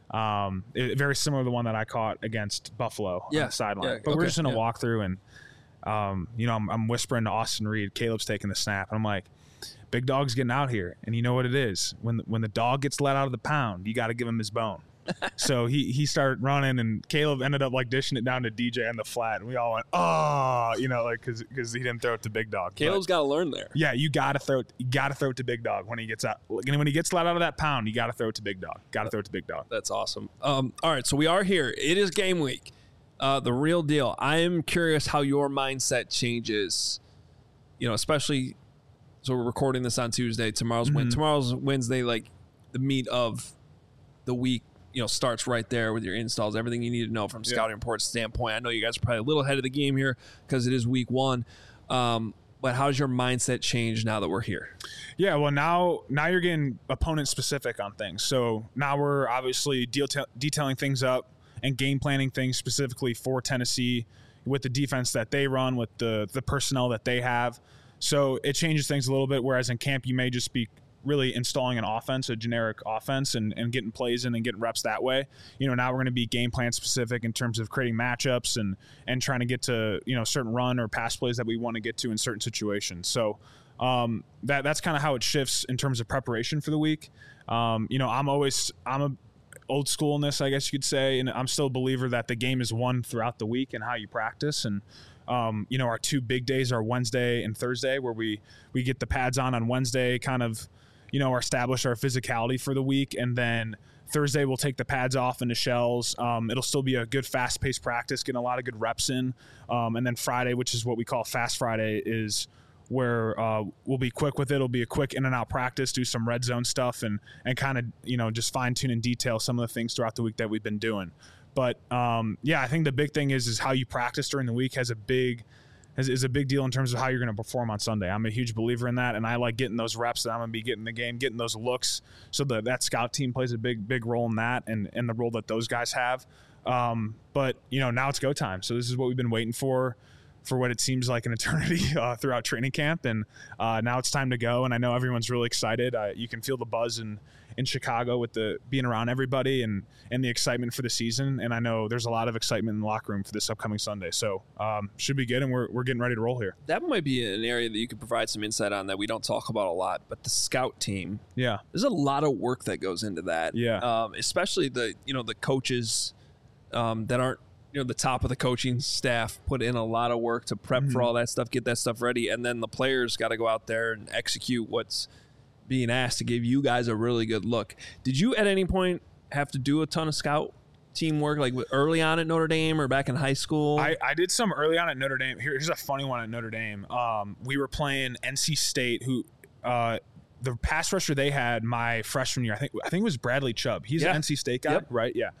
um, it, very similar to the one that I caught against Buffalo yeah. on the sideline. Yeah. But okay. we're just in a yeah. walkthrough and Um, you know, I'm, I'm whispering to Austin Reed, Caleb's taking the snap. And I'm like, Big Dog's getting out here. And you know what it is? When when the dog gets let out of the pound, you got to give him his bone. So he he started running, and Caleb ended up like dishing it down to D J on the flat. And we all went, oh, you know, like because because he didn't throw it to Big Dog. Caleb's got to learn there. Yeah, you got to throw it. You got to throw it to Big Dog when he gets out. And when he gets let out of that pound, you got to throw it to Big Dog. Got to throw it to Big Dog. That's awesome. Um, all right, so we are here. It is game week. Uh, the real deal. I am curious how your mindset changes, you know, especially, so we're recording this on Tuesday. Tomorrow's Mm-hmm. win. Tomorrow's Wednesday, like the meat of the week, you know, starts right there with your installs, everything you need to know from scouting yeah. report standpoint. I know you guys are probably a little ahead of the game here because it is week one. Um, but how's your mindset change now that we're here? Yeah, well, now now you're getting opponent specific on things. So now we're obviously detail, detailing things up and game planning things specifically for Tennessee with the defense that they run, with the the personnel that they have. So it changes things a little bit, whereas in camp you may just be really installing an offense, a generic offense, and, and getting plays in and getting reps that way. You know, now we're going to be game plan specific in terms of creating matchups and and trying to get to, you know, certain run or pass plays that we want to get to in certain situations. So um, that that's kind of how it shifts in terms of preparation for the week. Um, you know, I'm always – I'm a – old school in this, I guess you could say, and I'm still a believer that the game is won throughout the week and how you practice. And um, you know, our two big days are Wednesday and Thursday, where we we get the pads on on Wednesday, kind of, you know, establish our physicality for the week, and then Thursday we'll take the pads off into shells. Um, it'll still be a good fast-paced practice, getting a lot of good reps in, um, and then Friday, which is what we call Fast Friday, is where uh, we'll be quick with it. It'll be a quick in and out practice, do some red zone stuff, and and kind of, you know, just fine tune and detail some of the things throughout the week that we've been doing. But um, yeah, I think the big thing is is how you practice during the week has a big is, is a big deal in terms of how you're going to perform on Sunday. I'm a huge believer in that, and I like getting those reps that I'm going to be getting in the game, getting those looks. So the, that scout team plays a big big role in that, and and the role that those guys have. Um, but you know, now it's go time. So this is what we've been waiting for. for what it seems like an eternity uh, throughout training camp. And uh, now it's time to go. And I know everyone's really excited. Uh, you can feel the buzz in, in Chicago with the being around everybody and, and the excitement for the season. And I know there's a lot of excitement in the locker room for this upcoming Sunday. So um, should be good. And we're, we're getting ready to roll here. That might be an area that you could provide some insight on that we don't talk about a lot, but the scout team, yeah, there's a lot of work that goes into that. Yeah. Um, especially the, you know, the coaches um, that aren't, you know, the top of the coaching staff put in a lot of work to prep mm-hmm. for all that stuff, get that stuff ready. And then the players got to go out there and execute what's being asked to give you guys a really good look. Did you at any point have to do a ton of scout teamwork, like early on at Notre Dame or back in high school? I, I did some early on at Notre Dame. Here's a funny one at Notre Dame. Um, we were playing N C State, who uh, the pass rusher they had my freshman year, I think I think it was Bradley Chubb. He's yeah. an N C State guy, yep. right? Yeah.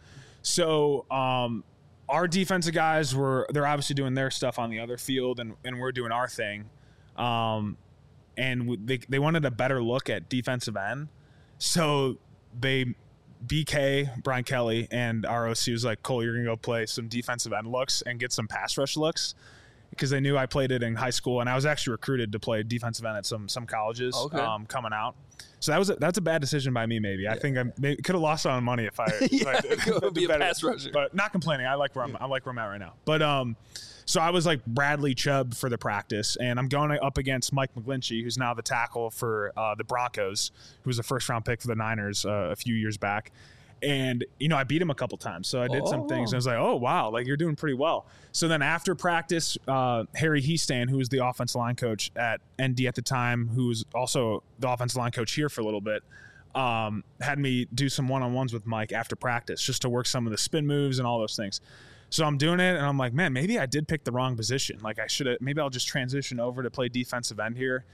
So um, our defensive guys were, they're obviously doing their stuff on the other field, and, and we're doing our thing. Um, and they, they wanted a better look at defensive end. So they, B K, Brian Kelly, and our O C was like, Cole, you're going to go play some defensive end looks and get some pass rush looks. because they knew I played it in high school, and I was actually recruited to play defensive end at some some colleges Okay. um, coming out. So that was a, that's a bad decision by me. Maybe I think I could have lost on money if I, if I did, go did be a better. pass rusher. But not complaining. I like where I'm, I like where I'm at right now. But um, so I was like Bradley Chubb for the practice, and I'm going up against Mike McGlinchey, who's now the tackle for uh, the Broncos, who was a first round pick for the Niners uh, a few years back. And, you know, I beat him a couple times. So I did Oh. some things. And I was like, oh, wow, like you're doing pretty well. So then after practice, uh, Harry Heastan, who was the offensive line coach at N D at the time, who was also the offensive line coach here for a little bit, um, had me do some one-on-ones with Mike after practice just to work some of the spin moves and all those things. So I'm doing it, and I'm like, man, maybe I did pick the wrong position. Like I should have – maybe I'll just transition over to play defensive end here.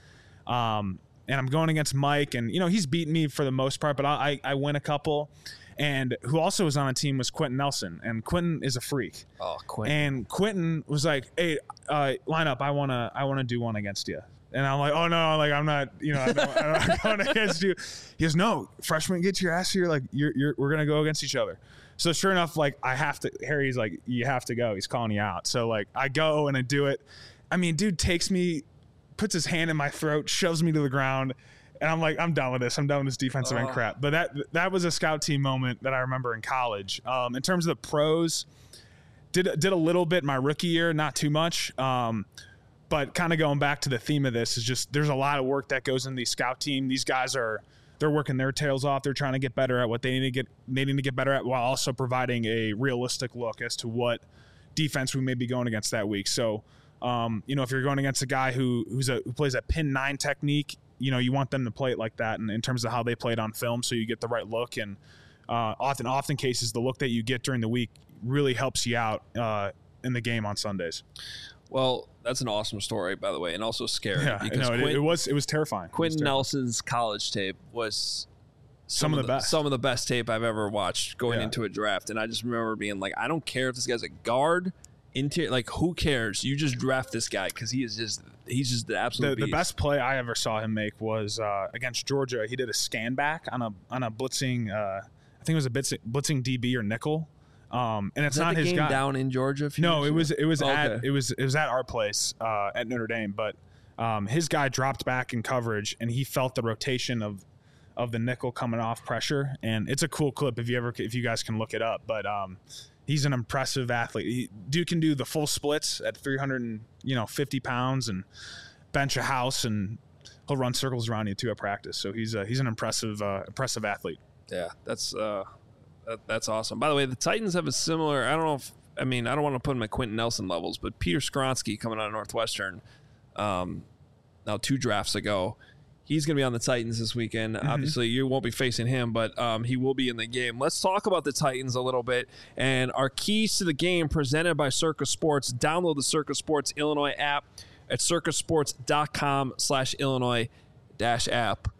Um, and I'm going against Mike, and, you know, he's beaten me for the most part, but I, I, I win a couple. And who also was on a team was Quentin Nelson, and Quentin is a freak. Oh, Quentin. And Quentin was like, "Hey, uh, line up. I wanna, I wanna do one against you." And I'm like, "Oh no, like I'm not, you know, I'm not, I'm not going against you." He goes, "No, freshman, get your ass here. Like you're, you're, we're gonna go against each other." So sure enough, like I have to. Harry's like, "You have to go." He's calling you out. So like I go and I do it. I mean, dude takes me, puts his hand in my throat, shoves me to the ground. And I'm like, I'm done with this. I'm done with this defensive end Oh. crap. But that that was a scout team moment that I remember in college. Um, in terms of the pros, did did a little bit my rookie year, not too much. Um, but kind of going back to the theme of this is just there's a lot of work that goes in the scout team. These guys are they're working their tails off. They're trying to get better at what they need to get they need to get better at, while also providing a realistic look as to what defense we may be going against that week. So, um, you know, if you're going against a guy who who's a who plays a pin nine technique, you know, you want them to play it like that, and in terms of how they play it on film, so you get the right look. And uh, often, often cases, the look that you get during the week really helps you out uh, in the game on Sundays. Well, that's an awesome story, by the way, and also scary. Yeah, because no, it, Quint- it was it was terrifying. It was Quentin terrifying. Nelson's college tape was Some of the best. Some of the best tape I've ever watched going Yeah. into a draft, and I just remember being like, I don't care if this guy's a guard, interior, like who cares? You just draft this guy because he is just he's just the absolute The, the beast. best play I ever saw him make was uh, against Georgia. He did a scan back on a on a blitzing. Uh, I think it was a blitzing, blitzing D B or nickel. Um, and it's Is that not the his game guy. down in Georgia. A few No, years it ago? was it was Okay. at it was it was at our place uh, at Notre Dame. But um, his guy dropped back in coverage, and he felt the rotation of of the nickel coming off pressure. And it's a cool clip if you ever if you guys can look it up. But um, he's an impressive athlete. He, dude can do the full splits at three hundred fifty pounds and bench a house, and he'll run circles around you too at practice. So he's a, he's an impressive uh, impressive athlete. Yeah, that's uh, that, that's awesome. By the way, the Titans have a similar. I don't know if I mean I don't want to put him at Quentin Nelson levels, but Peter Skronsky coming out of Northwestern, um, now two drafts ago, he's going to be on the Titans this weekend. Mm-hmm. Obviously, you won't be facing him, but um, he will be in the game. Let's talk about the Titans a little bit and our keys to the game presented by Circus Sports. Download the Circus Sports Illinois app at circus sports dot com slash Illinois dash app.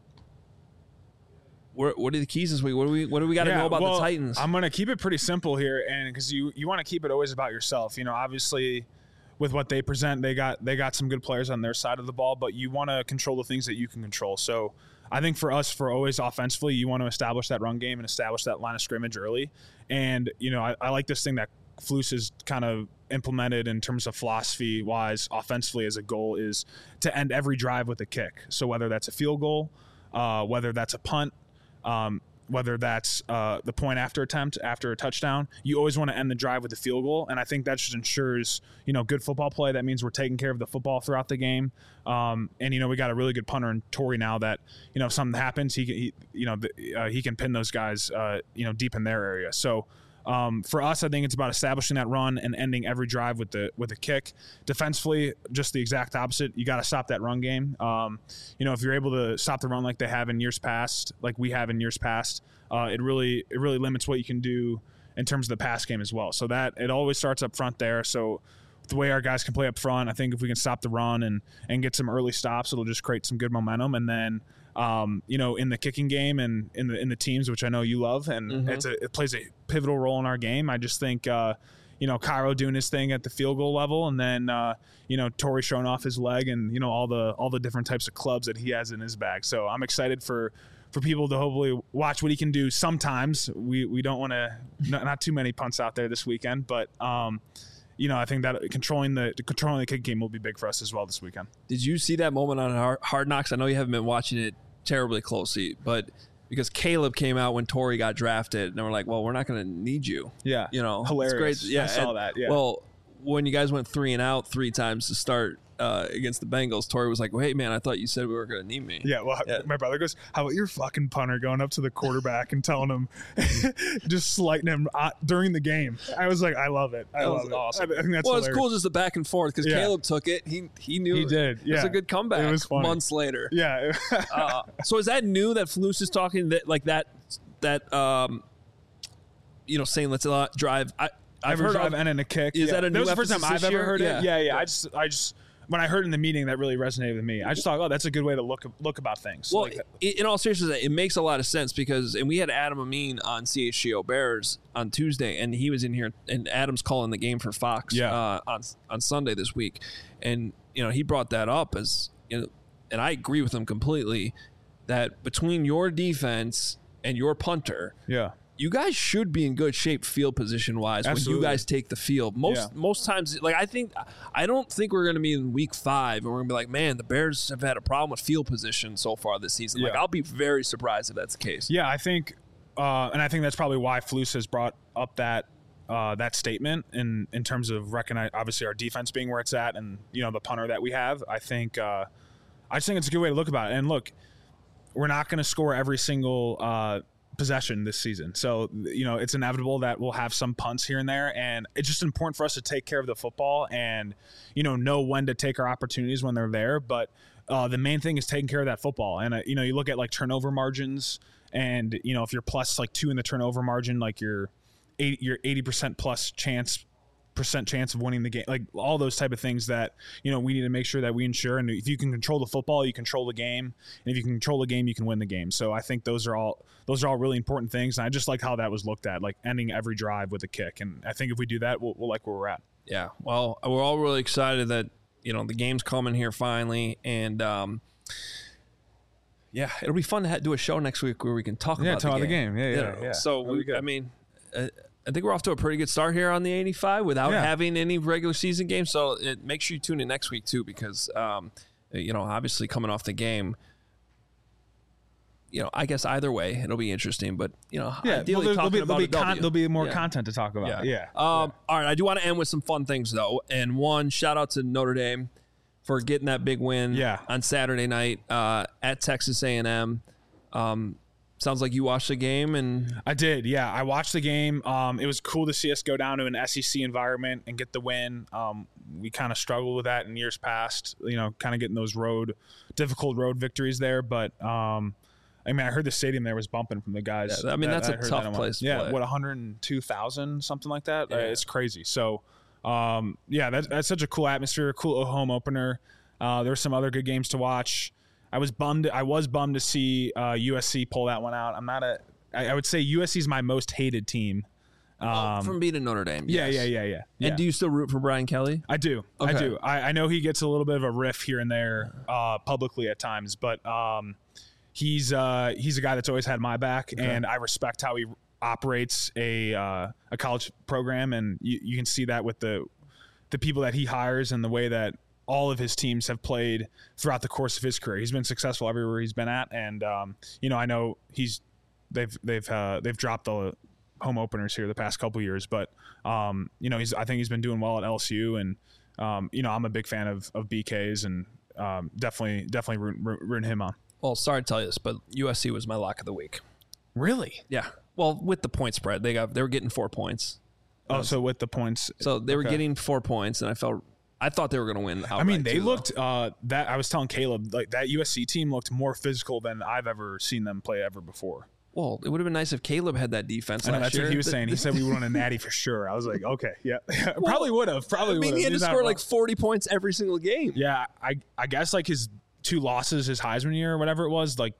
What, what are the keys this week? What do we what do we got to Yeah, know about well, the Titans? I'm going to keep it pretty simple here, and because you you want to keep it always about yourself. You know, obviously, with what they present, they got they got some good players on their side of the ball, but you want to control the things that you can control. So I think for us, for always offensively, you want to establish that run game and establish that line of scrimmage early. And you know, I, I like this thing that Flus has kind of implemented in terms of philosophy wise offensively as a goal is to end every drive with a kick. So whether that's a field goal, uh, whether that's a punt, um, whether that's uh, the point after attempt after a touchdown, you always want to end the drive with a field goal. And I think that just ensures, you know, good football play. That means we're taking care of the football throughout the game. Um, and, you know, we got a really good punter in Torrey now that, you know, if something happens, he, he you know, the, uh, he can pin those guys, uh, you know, deep in their area. So, Um, for us, I think it's about establishing that run and ending every drive with the with a kick. Defensively, just the exact opposite. You got to stop that run game. Um, you know, if you're able to stop the run like they have in years past, like we have in years past, uh, it really it really limits what you can do in terms of the pass game as well. So that it always starts up front there. So the way our guys can play up front, I think if we can stop the run and and get some early stops, it'll just create some good momentum. And then Um, you know, in the kicking game and in the in the teams, which I know you love, and Mm-hmm. it's a, it plays a pivotal role in our game. I just think, uh, you know, Cairo doing his thing at the field goal level, and then uh, you know, Torrey showing off his leg, and you know, all the all the different types of clubs that he has in his bag. So I'm excited for for people to hopefully watch what he can do. Sometimes we we don't want to not, not too many punts out there this weekend, but um, you know, I think that controlling the controlling the kick game will be big for us as well this weekend. Did you see that moment on Hard Knocks? I know you haven't been watching it terribly closely, but because Caleb came out when Torrey got drafted, and they were like, well, we're not going to need you. Yeah. You know, hilarious. It's great. Yeah, I saw and, that. Yeah. Well, when you guys went three and out three times to start uh, against the Bengals, Torrey was like, well, hey, man, I thought you said we were going to need me. Yeah, well, yeah. My brother goes, how about your fucking punter going up to the quarterback and telling him, just slighting him uh, during the game? I was like, I love it. I that love was it. awesome. I think that's well, hilarious. it's cool just the back and forth because Yeah. Caleb took it. He he knew He did. It was Yeah. a good comeback It was funny. months later. Yeah. uh, so is that new that Flus is talking that like that, that um, you know, saying let's uh, drive? I, I've Every heard drive of, and in a kick. Is yeah. that a that new was the first time emphasis I've this ever year? heard Yeah. it. Yeah, yeah. Yeah. I just, I just, when I heard in the meeting, that really resonated with me. I just thought, oh, that's a good way to look look about things. Well, Like, in in all seriousness, it makes a lot of sense because, and we had Adam Amin on C H G O Bears on Tuesday, and he was in here, and Adam's calling the game for Fox Yeah. uh, on on Sunday this week, and you know he brought that up as you know, and I agree with him completely that between your defense and your punter, yeah. you guys should be in good shape field position wise when you Absolutely. guys take the field. Most Yeah. most times, like I think, I don't think we're going to be in week five and we're going to be like, man, the Bears have had a problem with field position so far this season. Like Yeah. I'll be very surprised if that's the case. Yeah, I think, uh, and I think that's probably why Flus has brought up that uh, that statement in in terms of recognize obviously our defense being where it's at, and you know the punter that we have. I think uh, I just think it's a good way to look about it. And look, we're not going to score every single uh, possession this season, so you know it's inevitable that we'll have some punts here and there, and it's just important for us to take care of the football and you know know when to take our opportunities when they're there. But uh, the main thing is taking care of that football, and uh, you know you look at like turnover margins. And, you know, if you're plus like two in the turnover margin, like you're eighty, you're eighty percent plus chance, percent chance of winning the game, like all those type of things that, you know, we need to make sure that we ensure. And if you can control the football, you control the game. And if you can control the game, you can win the game. So I think those are all, those are all really important things. And I just like how that was looked at, like ending every drive with a kick. And I think if we do that, we'll, we'll like where we're at. Yeah. Well, we're all really excited that, you know, the game's coming here finally. And, um, yeah, it'll be fun to ha- do a show next week where we can talk Yeah, about talk the about the game. game. Yeah, You yeah, know, yeah. So, That'll be we, good. I mean, uh, I think we're off to a pretty good start here on the eighty-five without Yeah. having any regular season games. So it, make sure you tune in next week, too, because, um, you know, obviously coming off the game, you know, I guess either way, it'll be interesting. But, you know, Yeah, ideally well, there'll, talking be, about there'll, be a W. con- there'll be more Yeah. content to talk about. Yeah. Um, All right. I do want to end with some fun things, though. And one, shout out to Notre Dame for getting that big win Yeah. on Saturday night uh, at Texas A and M. Um, sounds like you watched the game. and I did, yeah. I watched the game. Um, it was cool to see us go down to an S E C environment and get the win. Um, we kind of struggled with that in years past, you know, kind of getting those road, difficult road victories there. But, um, I mean, I heard the stadium there was bumping from the guys. Yeah, I mean, that's a heard tough that. place to Yeah, play. what, one hundred two thousand, something like that? Yeah. Uh, it's crazy. So, um, yeah, that's, that's such a cool atmosphere, cool home opener. Uh, there were some other good games to watch. I was bummed. I was bummed to see uh, U S C pull that one out. I'm not a. I, I would say U S C is my most hated team. Um, from beating Notre Dame. yeah, yes. yeah, yeah, yeah, yeah. And do you still root for Brian Kelly? I do. I Okay. do. I, I know he gets a little bit of a riff here and there uh, publicly at times, but um, he's uh, he's a guy that's always had my back, and I respect how he operates a uh, a college program, and you, you can see that with the the people that he hires and the way that all of his teams have played throughout the course of his career. He's been successful everywhere he's been at, and um, you know, I know he's they've they've uh, they've dropped the home openers here the past couple of years, but um, you know, he's I think he's been doing well at L S U, and um, you know, I'm a big fan of of B K's, and um, definitely definitely rooting, rooting him on. Well, sorry to tell you this, but U S C was my lock of the week. Really? Yeah. Well, with the point spread, they got they were getting four points. Oh, so with the points, So they were Okay. getting four points, and I felt I thought they were going to win. I mean, outright, they too, though. looked uh, that I was telling Caleb, like that U S C team looked more physical than I've ever seen them play ever before. Well, it would have been nice if Caleb had that defense. I know, last that's year. what he was The- saying. He said we would won a natty for sure. I was like, okay, yeah, probably would have. Probably I mean, would he have. had to score like forty points every single game. yeah. I I guess like his two losses, his Heisman year or whatever it was, like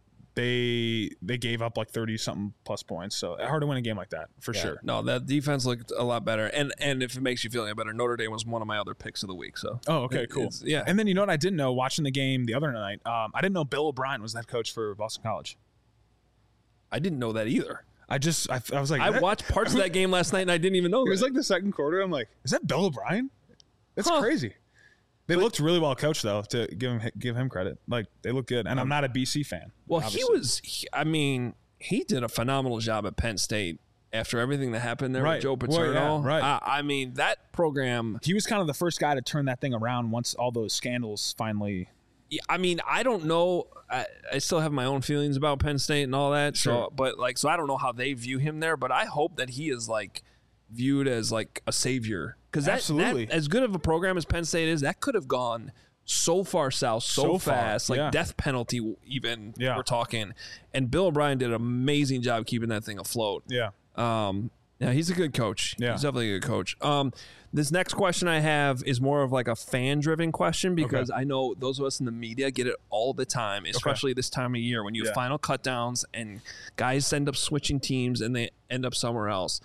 they they gave up like thirty something plus points. So hard to win a game like that for Yeah. sure. No, that defense looked a lot better. And and if it makes you feel any better, Notre Dame was one of my other picks of the week. So Oh, okay, it- cool. it's- yeah. And then you know what I didn't know watching the game the other night? Um, I didn't know Bill O'Brien was the head coach for Boston College. I didn't know that either. I just I, I was like, I that, watched parts of that game last night and I didn't even know. It that. was like the second quarter. I'm like, is that Bill O'Brien? That's Huh. crazy. They But- looked really well coached though. To give him give him credit, like they look good. And I'm not a B C fan. Well, obviously. he was. He, I mean, he did a phenomenal job at Penn State after everything that happened there Right. with Joe Well, yeah, Paterno. right. I, I mean, that program. He was kind of the first guy to turn that thing around once all those scandals finally. Yeah, I mean, I don't know. I, I still have my own feelings about Penn State and all that. Sure. So, but like, so I don't know how they view him there. But I hope that he is like viewed as like a savior, because that, Absolutely. that as good of a program as Penn State is, that could have gone so far south so, So far, fast, like yeah. death penalty even. Yeah. We're talking, and Bill O'Brien did an amazing job keeping that thing afloat. Yeah. Um, yeah, he's a good coach. Yeah. He's definitely a good coach. Um, this next question I have is more of like a fan-driven question, because I know those of us in the media get it all the time, especially this time of year when you have Yeah. final cutdowns and guys end up switching teams and they end up somewhere else.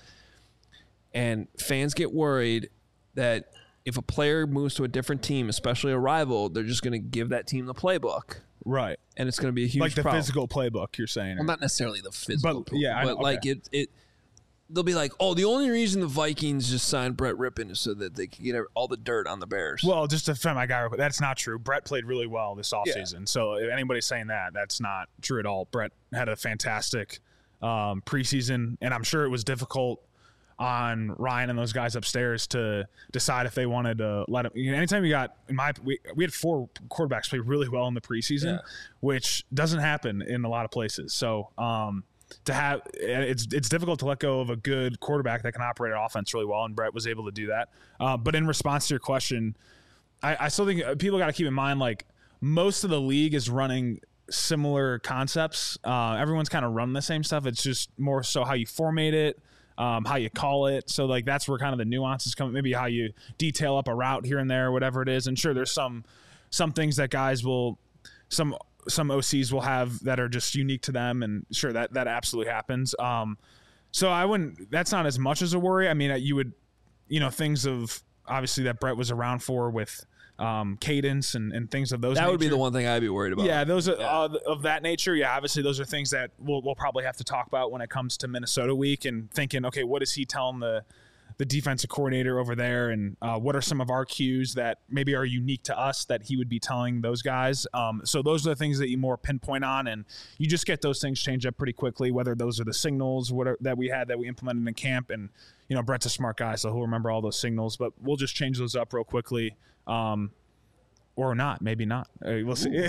And fans get worried that if a player moves to a different team, especially a rival, they're just going to give that team the playbook, Right. and it's going to be a huge Like the problem. physical playbook you're saying. Well, not necessarily the physical, But, yeah, I but know, like okay. it, it. They'll be like, "Oh, the only reason the Vikings just signed Brett Rippon is so that they could get all the dirt on the Bears." Well, just to defend my guy, real quick, that's not true. Brett played really well this offseason. So if anybody's saying that, that's not true at all. Brett had a fantastic um, preseason, and I'm sure it was difficult on Ryan and those guys upstairs to decide if they wanted to let him. You know, anytime you got, in my, we, we had four quarterbacks play really well in the preseason, Yeah. which doesn't happen in a lot of places. So, um, to have it's it's difficult to let go of a good quarterback that can operate an offense really well, and Brett was able to do that. Uh, but in response to your question, I, I still think people got to keep in mind, like, most of the league is running similar concepts. Uh, everyone's kind of run the same stuff. It's just more so how you formate it, um, how you call it. So like that's where kind of the nuances come. Maybe how you detail up a route here and there, whatever it is. And sure, there's some some things that guys will some. some O Cs will have that are just unique to them, and sure, that that absolutely happens. Um, so I wouldn't. That's not as much as a worry. I mean, you would, you know, things of obviously that Brett was around for with um, cadence and, and things of those. that would be nature. the one thing I'd be worried about. Yeah, those are Yeah. Uh, of that nature. Yeah, obviously those are things that we'll we'll probably have to talk about when it comes to Minnesota week, and thinking, okay, what is he telling the the defensive coordinator over there, and uh, what are some of our cues that maybe are unique to us that he would be telling those guys. Um, so those are the things that you more pinpoint on, and you just get those things change up pretty quickly, whether those are the signals what are, that we had that we implemented in camp. And, you know, Brett's a smart guy, so he'll remember all those signals, but we'll just change those up real quickly. Um, or not, maybe not. Uh, we'll see.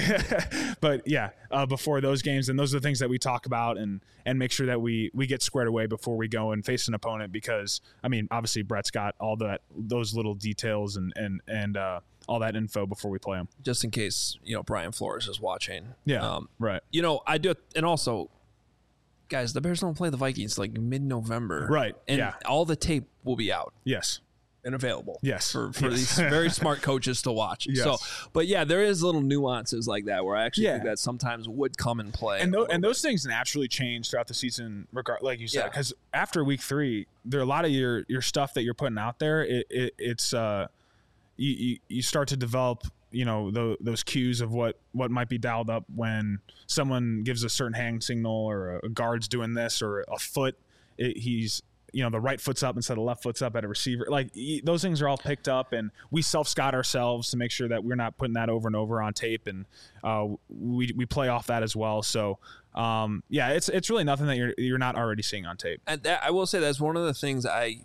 But yeah, uh, before those games, and those are the things that we talk about and and make sure that we we get squared away before we go and face an opponent. Because I mean, obviously Brett's got all that those little details and and and uh, all that info before we play them. just in case you know Brian Flores is watching. Yeah, Um, right, you know, I do, and also, guys, the Bears don't play the Vikings like mid-November, Right, And yeah. all the tape will be out yes, and available. Yes. for for Yes. these very smart coaches to watch. Yes. So, but yeah, there is little nuances like that where I actually Yeah. think that sometimes would come in play. and a those, little and bit. those things naturally change throughout the season, regard like you said, Yeah. because after week three, there are a lot of your your stuff that you're putting out there. It, it it's uh, you, you you start to develop, you know, the, those cues of what what might be dialed up when someone gives a certain hand signal, or a guard's doing this, or a foot, it, he's you know the right foot's up instead of left foot's up at a receiver. Like y- those things are all picked up, and we self scout ourselves to make sure that we're not putting that over and over on tape, and uh, we we play off that as well. So um, yeah, it's it's really nothing that you're you're not already seeing on tape. And that, I will say that's one of the things I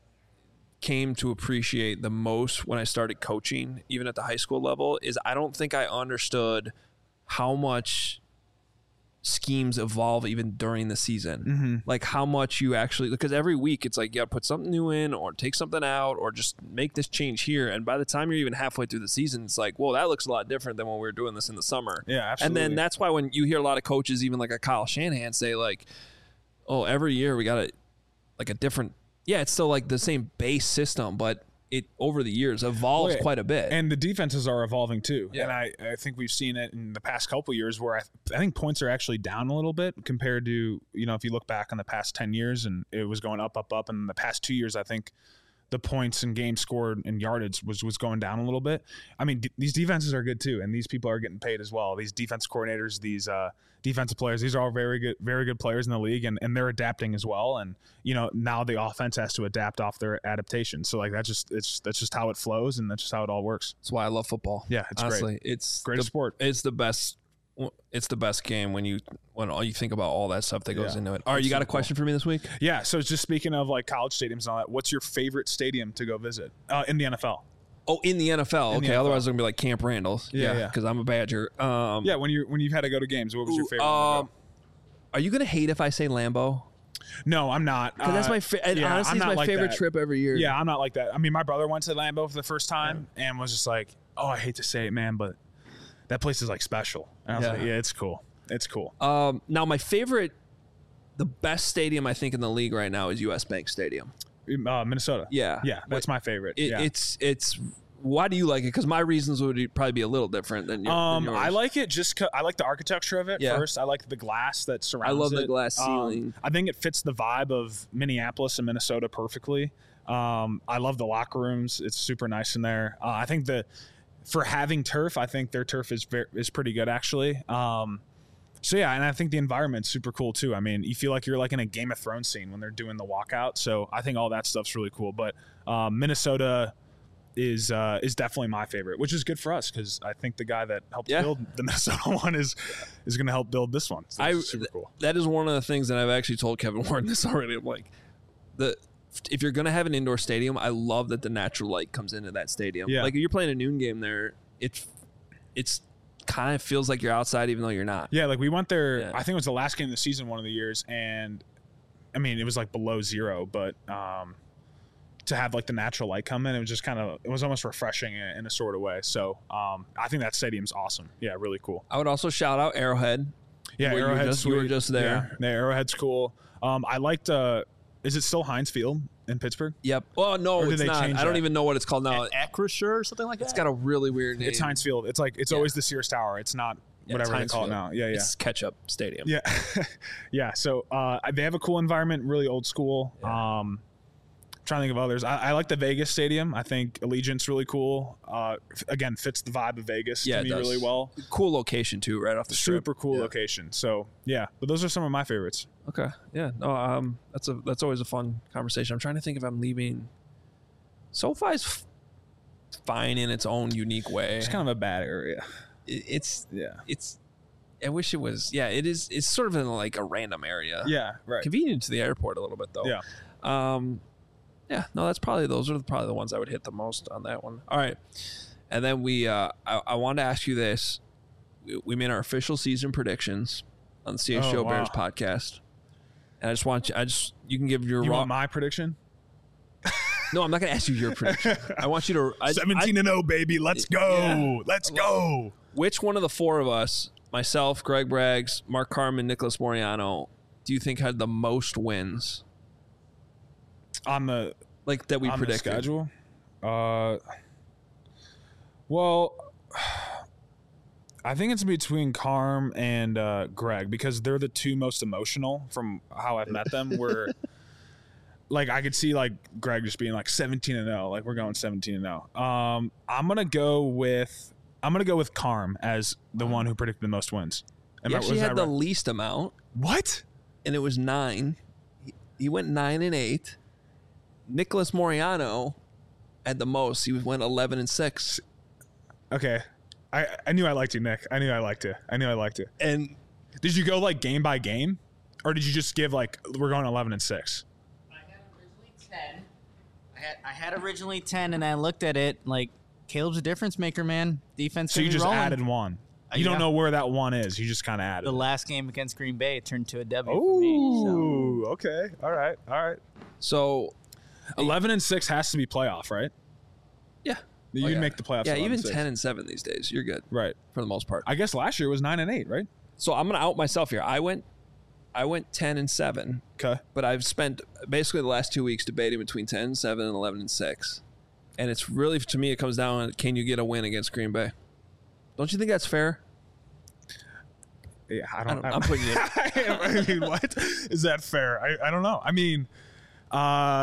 came to appreciate the most when I started coaching, even at the high school level, is I don't think I understood how much schemes evolve even during the season. Mm-hmm. Like how much you actually, because every week it's like you got to put something new in or take something out or just make this change here. And by the time you're even halfway through the season, it's like, whoa, that looks a lot different than when we were doing this in the summer. Yeah, absolutely. And then that's why when you hear a lot of coaches, even like a Kyle Shanahan, say like, oh, every year we got a, like a different, yeah, it's still like the same base system, but it over the years evolves Well, yeah. quite a bit. And the defenses are evolving too. Yeah. And I, I think we've seen it in the past couple of years where I, I think points are actually down a little bit compared to, you know, if you look back on the past ten years, and it was going up, up, up. And in the past two years, I think the points and games scored and yardage was was going down a little bit. I mean, d- these defenses are good too, and these people are getting paid as well. These defense coordinators, these uh, defensive players, these are all very good, very good players in the league, and, and they're adapting as well. And you know, now the offense has to adapt off their adaptation. So like that's just it's that's just how it flows, and that's just how it all works. That's why I love football. Yeah, it's honestly, great. it's Great the, sport. It's the best. It's the best game when you when all you think about all that stuff that goes Yeah. into it. All right, It's you got so a question for me this week? Yeah. So just speaking of like college stadiums and all that, what's your favorite stadium to go visit uh, in the N F L? Oh, in the N F L. In the Okay, N F L. otherwise it's gonna be like Camp Randall. Yeah, yeah. Because I'm a Badger. Um, Yeah, when you when you've had to go to games, what was your ooh, favorite? one to um, go? are you gonna hate if I say Lambeau? No, I'm not. Because that's Uh, my fa- and yeah, honestly, I'm it's not my like favorite that. trip every year. Yeah, I'm not like that. I mean, my brother went to Lambeau for the first time and was just like, "Oh, I hate to say it, man, but that place is like special." And I was Yeah. like, "Yeah, it's cool. It's cool." Um, now my favorite, the best stadium I think in the league right now is U S Bank Stadium. Uh, Minnesota. Yeah, Yeah, that's my favorite. It, yeah. It's it's. Why do you like it? Because my reasons would probably be a little different than, your, Um, than yours. I like it just 'cause I like the architecture of it Yeah. first. I like the glass that surrounds it. I love the glass Um, ceiling. I think it fits the vibe of Minneapolis and Minnesota perfectly. Um, I love the locker rooms. It's super nice in there. Uh, I think the for having turf, I think their turf is very, is pretty good actually. Um, so yeah, and I think the environment's super cool too. I mean, you feel like you're like in a Game of Thrones scene when they're doing the walkout. So I think all that stuff's really cool. But um, Minnesota is uh, is definitely my favorite, which is good for us because I think the guy that helped Yeah. build the Minnesota one is is going to help build this one. So I it's super cool. that is one of the things that I've actually told Kevin Warren this already. I'm like, the if you're gonna have an indoor stadium, I love that the natural light comes into that stadium. Yeah. Like if you're playing a noon game there, it's it's kind of feels like you're outside even though you're not. Yeah, like we went there. Yeah. I think it was the last game of the season, one of the years, and I mean it was like below zero, but um, to have like the natural light come in, it was just kind of it was almost refreshing in, in a sort of way. So um, I think that stadium's awesome. Yeah, really cool. I would also shout out Arrowhead. Yeah, Where you were Arrowhead's just- you were sweet. just there. Yeah, yeah, Arrowhead's cool. Um, I liked. Uh, is it still Heinz Field in Pittsburgh? Yep. Oh no, Or did it's they not. change I don't that? even know what it's called now. Acrisure or something like that. It's got a really weird name. It's Heinz Field. It's like it's Yeah. always the Sears Tower. It's not Yeah, whatever it's they Heinz call it Field. now. Yeah, yeah. It's Ketchup Stadium. Yeah, yeah. So uh, they have a cool environment, really old school. Yeah. Um, trying to think of others. I, I like the Vegas Stadium. I think Allegiant's really cool. Uh, f- again, fits the vibe of Vegas Yeah, to it me does. really well. Cool location too, right off the strip. Super cool Yeah. location. So yeah, but those are some of my favorites. Okay. Yeah. No. Um. That's a. That's always a fun conversation. I'm trying to think if I'm leaving. SoFi's f- fine in its own unique way. It's kind of a bad area. It- it's. Yeah. It's. I wish it was. Yeah. It is. It's sort of in like a random area. Yeah. Right. Convenient to the airport a little bit though. Yeah. Um. Yeah. No. That's probably those are probably the ones I would hit the most on that one. All right. And then we. Uh. I, I wanted to ask you this. We, we made our official season predictions on the C H Oh, Show wow. Bears podcast. And I just want you. I just. You can give your You raw. want my prediction? No, I'm not going to ask you your prediction. I want you to. I, Seventeen and zero, baby. Let's go. Yeah. Let's go. I- which one of the four of us, myself, Greg Braggs, Mark Carman, Nicholas Moriano, do you think had the most wins? On the Like that we on the predicted. schedule. Uh. Well. I think it's between Carm and uh, Greg because they're the two most emotional from how I've met them. Where, like, I could see like Greg just being like seventeen and zero, like we're going seventeen and zero. Um, I'm gonna go with I'm gonna go with Carm as the one who predicted the most wins. Am He I- actually was had that the right? least amount, What? and it was nine. He, he went nine and eight. Nicholas Moriano had the most. He went eleven and six. Okay, I I knew I liked you, Nick. I knew I liked you. I knew I liked you. And Did you go like game by game, or did you just give like we're going eleven and six? I had originally ten. I had I had originally ten, and I looked at it like Caleb's a difference maker, man. Defense. So you gonna be just rolling. added one. Uh, You don't yeah. know where that one is. You just kind of added. The it. last game against Green Bay it turned to a W for me. So. Ooh, okay. All right. All right. so, eleven and six has to be playoff, right? yeah. You Oh, can yeah. make the playoffs. Yeah, eleven even and six. ten and seven these days, you're good Right. for the most part. I guess last year was nine and eight, right? So I'm gonna out myself here. I went, I went ten and seven, Okay. but I've spent basically the last two weeks debating between ten and seven and eleven and six, and it's really to me it comes down to can you get a win against Green Bay? Don't you think that's fair? Yeah, I I don't. don't- I'm putting you- I mean, what is that fair? I, I don't know. I mean, uh,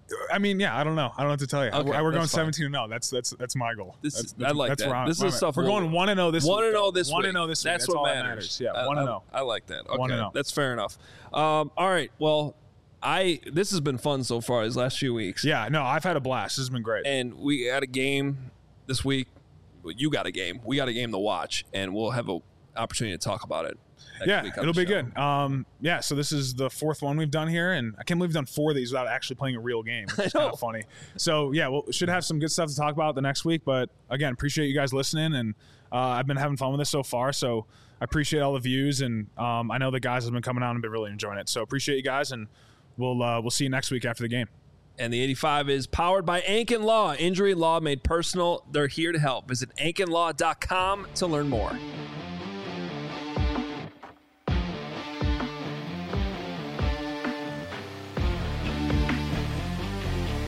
I mean, yeah, I don't know. I don't know what to tell you. Okay, we're we're going that's fine. seventeen and oh. That's that's that's my goal. This that's, is, that's, I like that's that. where I'm- This where is I'm at. stuff We're we'll- going one and oh this One week. and oh this One week. and oh this week. That's, That's what all that matters. matters. Yeah, I- one and I- oh. I like that. Okay, One and oh. that's fair enough. Um, all right. Well, I this has been fun so far these last few weeks. Yeah, no, I've had a blast. This has been great. And we had a game this week. Well, you got a game. We got a game to watch, and we'll have an opportunity to talk about it. next Yeah, week on it'll the be show. good. Um, yeah, so this is the fourth one we've done here, and I can't believe we've done four of these without actually playing a real game, which is I know. kind of funny. So yeah, we should have some good stuff to talk about the next week. But again, appreciate you guys listening, and uh, I've been having fun with this so far. So I appreciate all the views, and um, I know the guys have been coming out and been really enjoying it. So appreciate you guys, and we'll uh, we'll see you next week after the game. And the eighty-five is powered by Ankin Law. Injury law made personal. They're here to help. Visit ankin law dot com to learn more.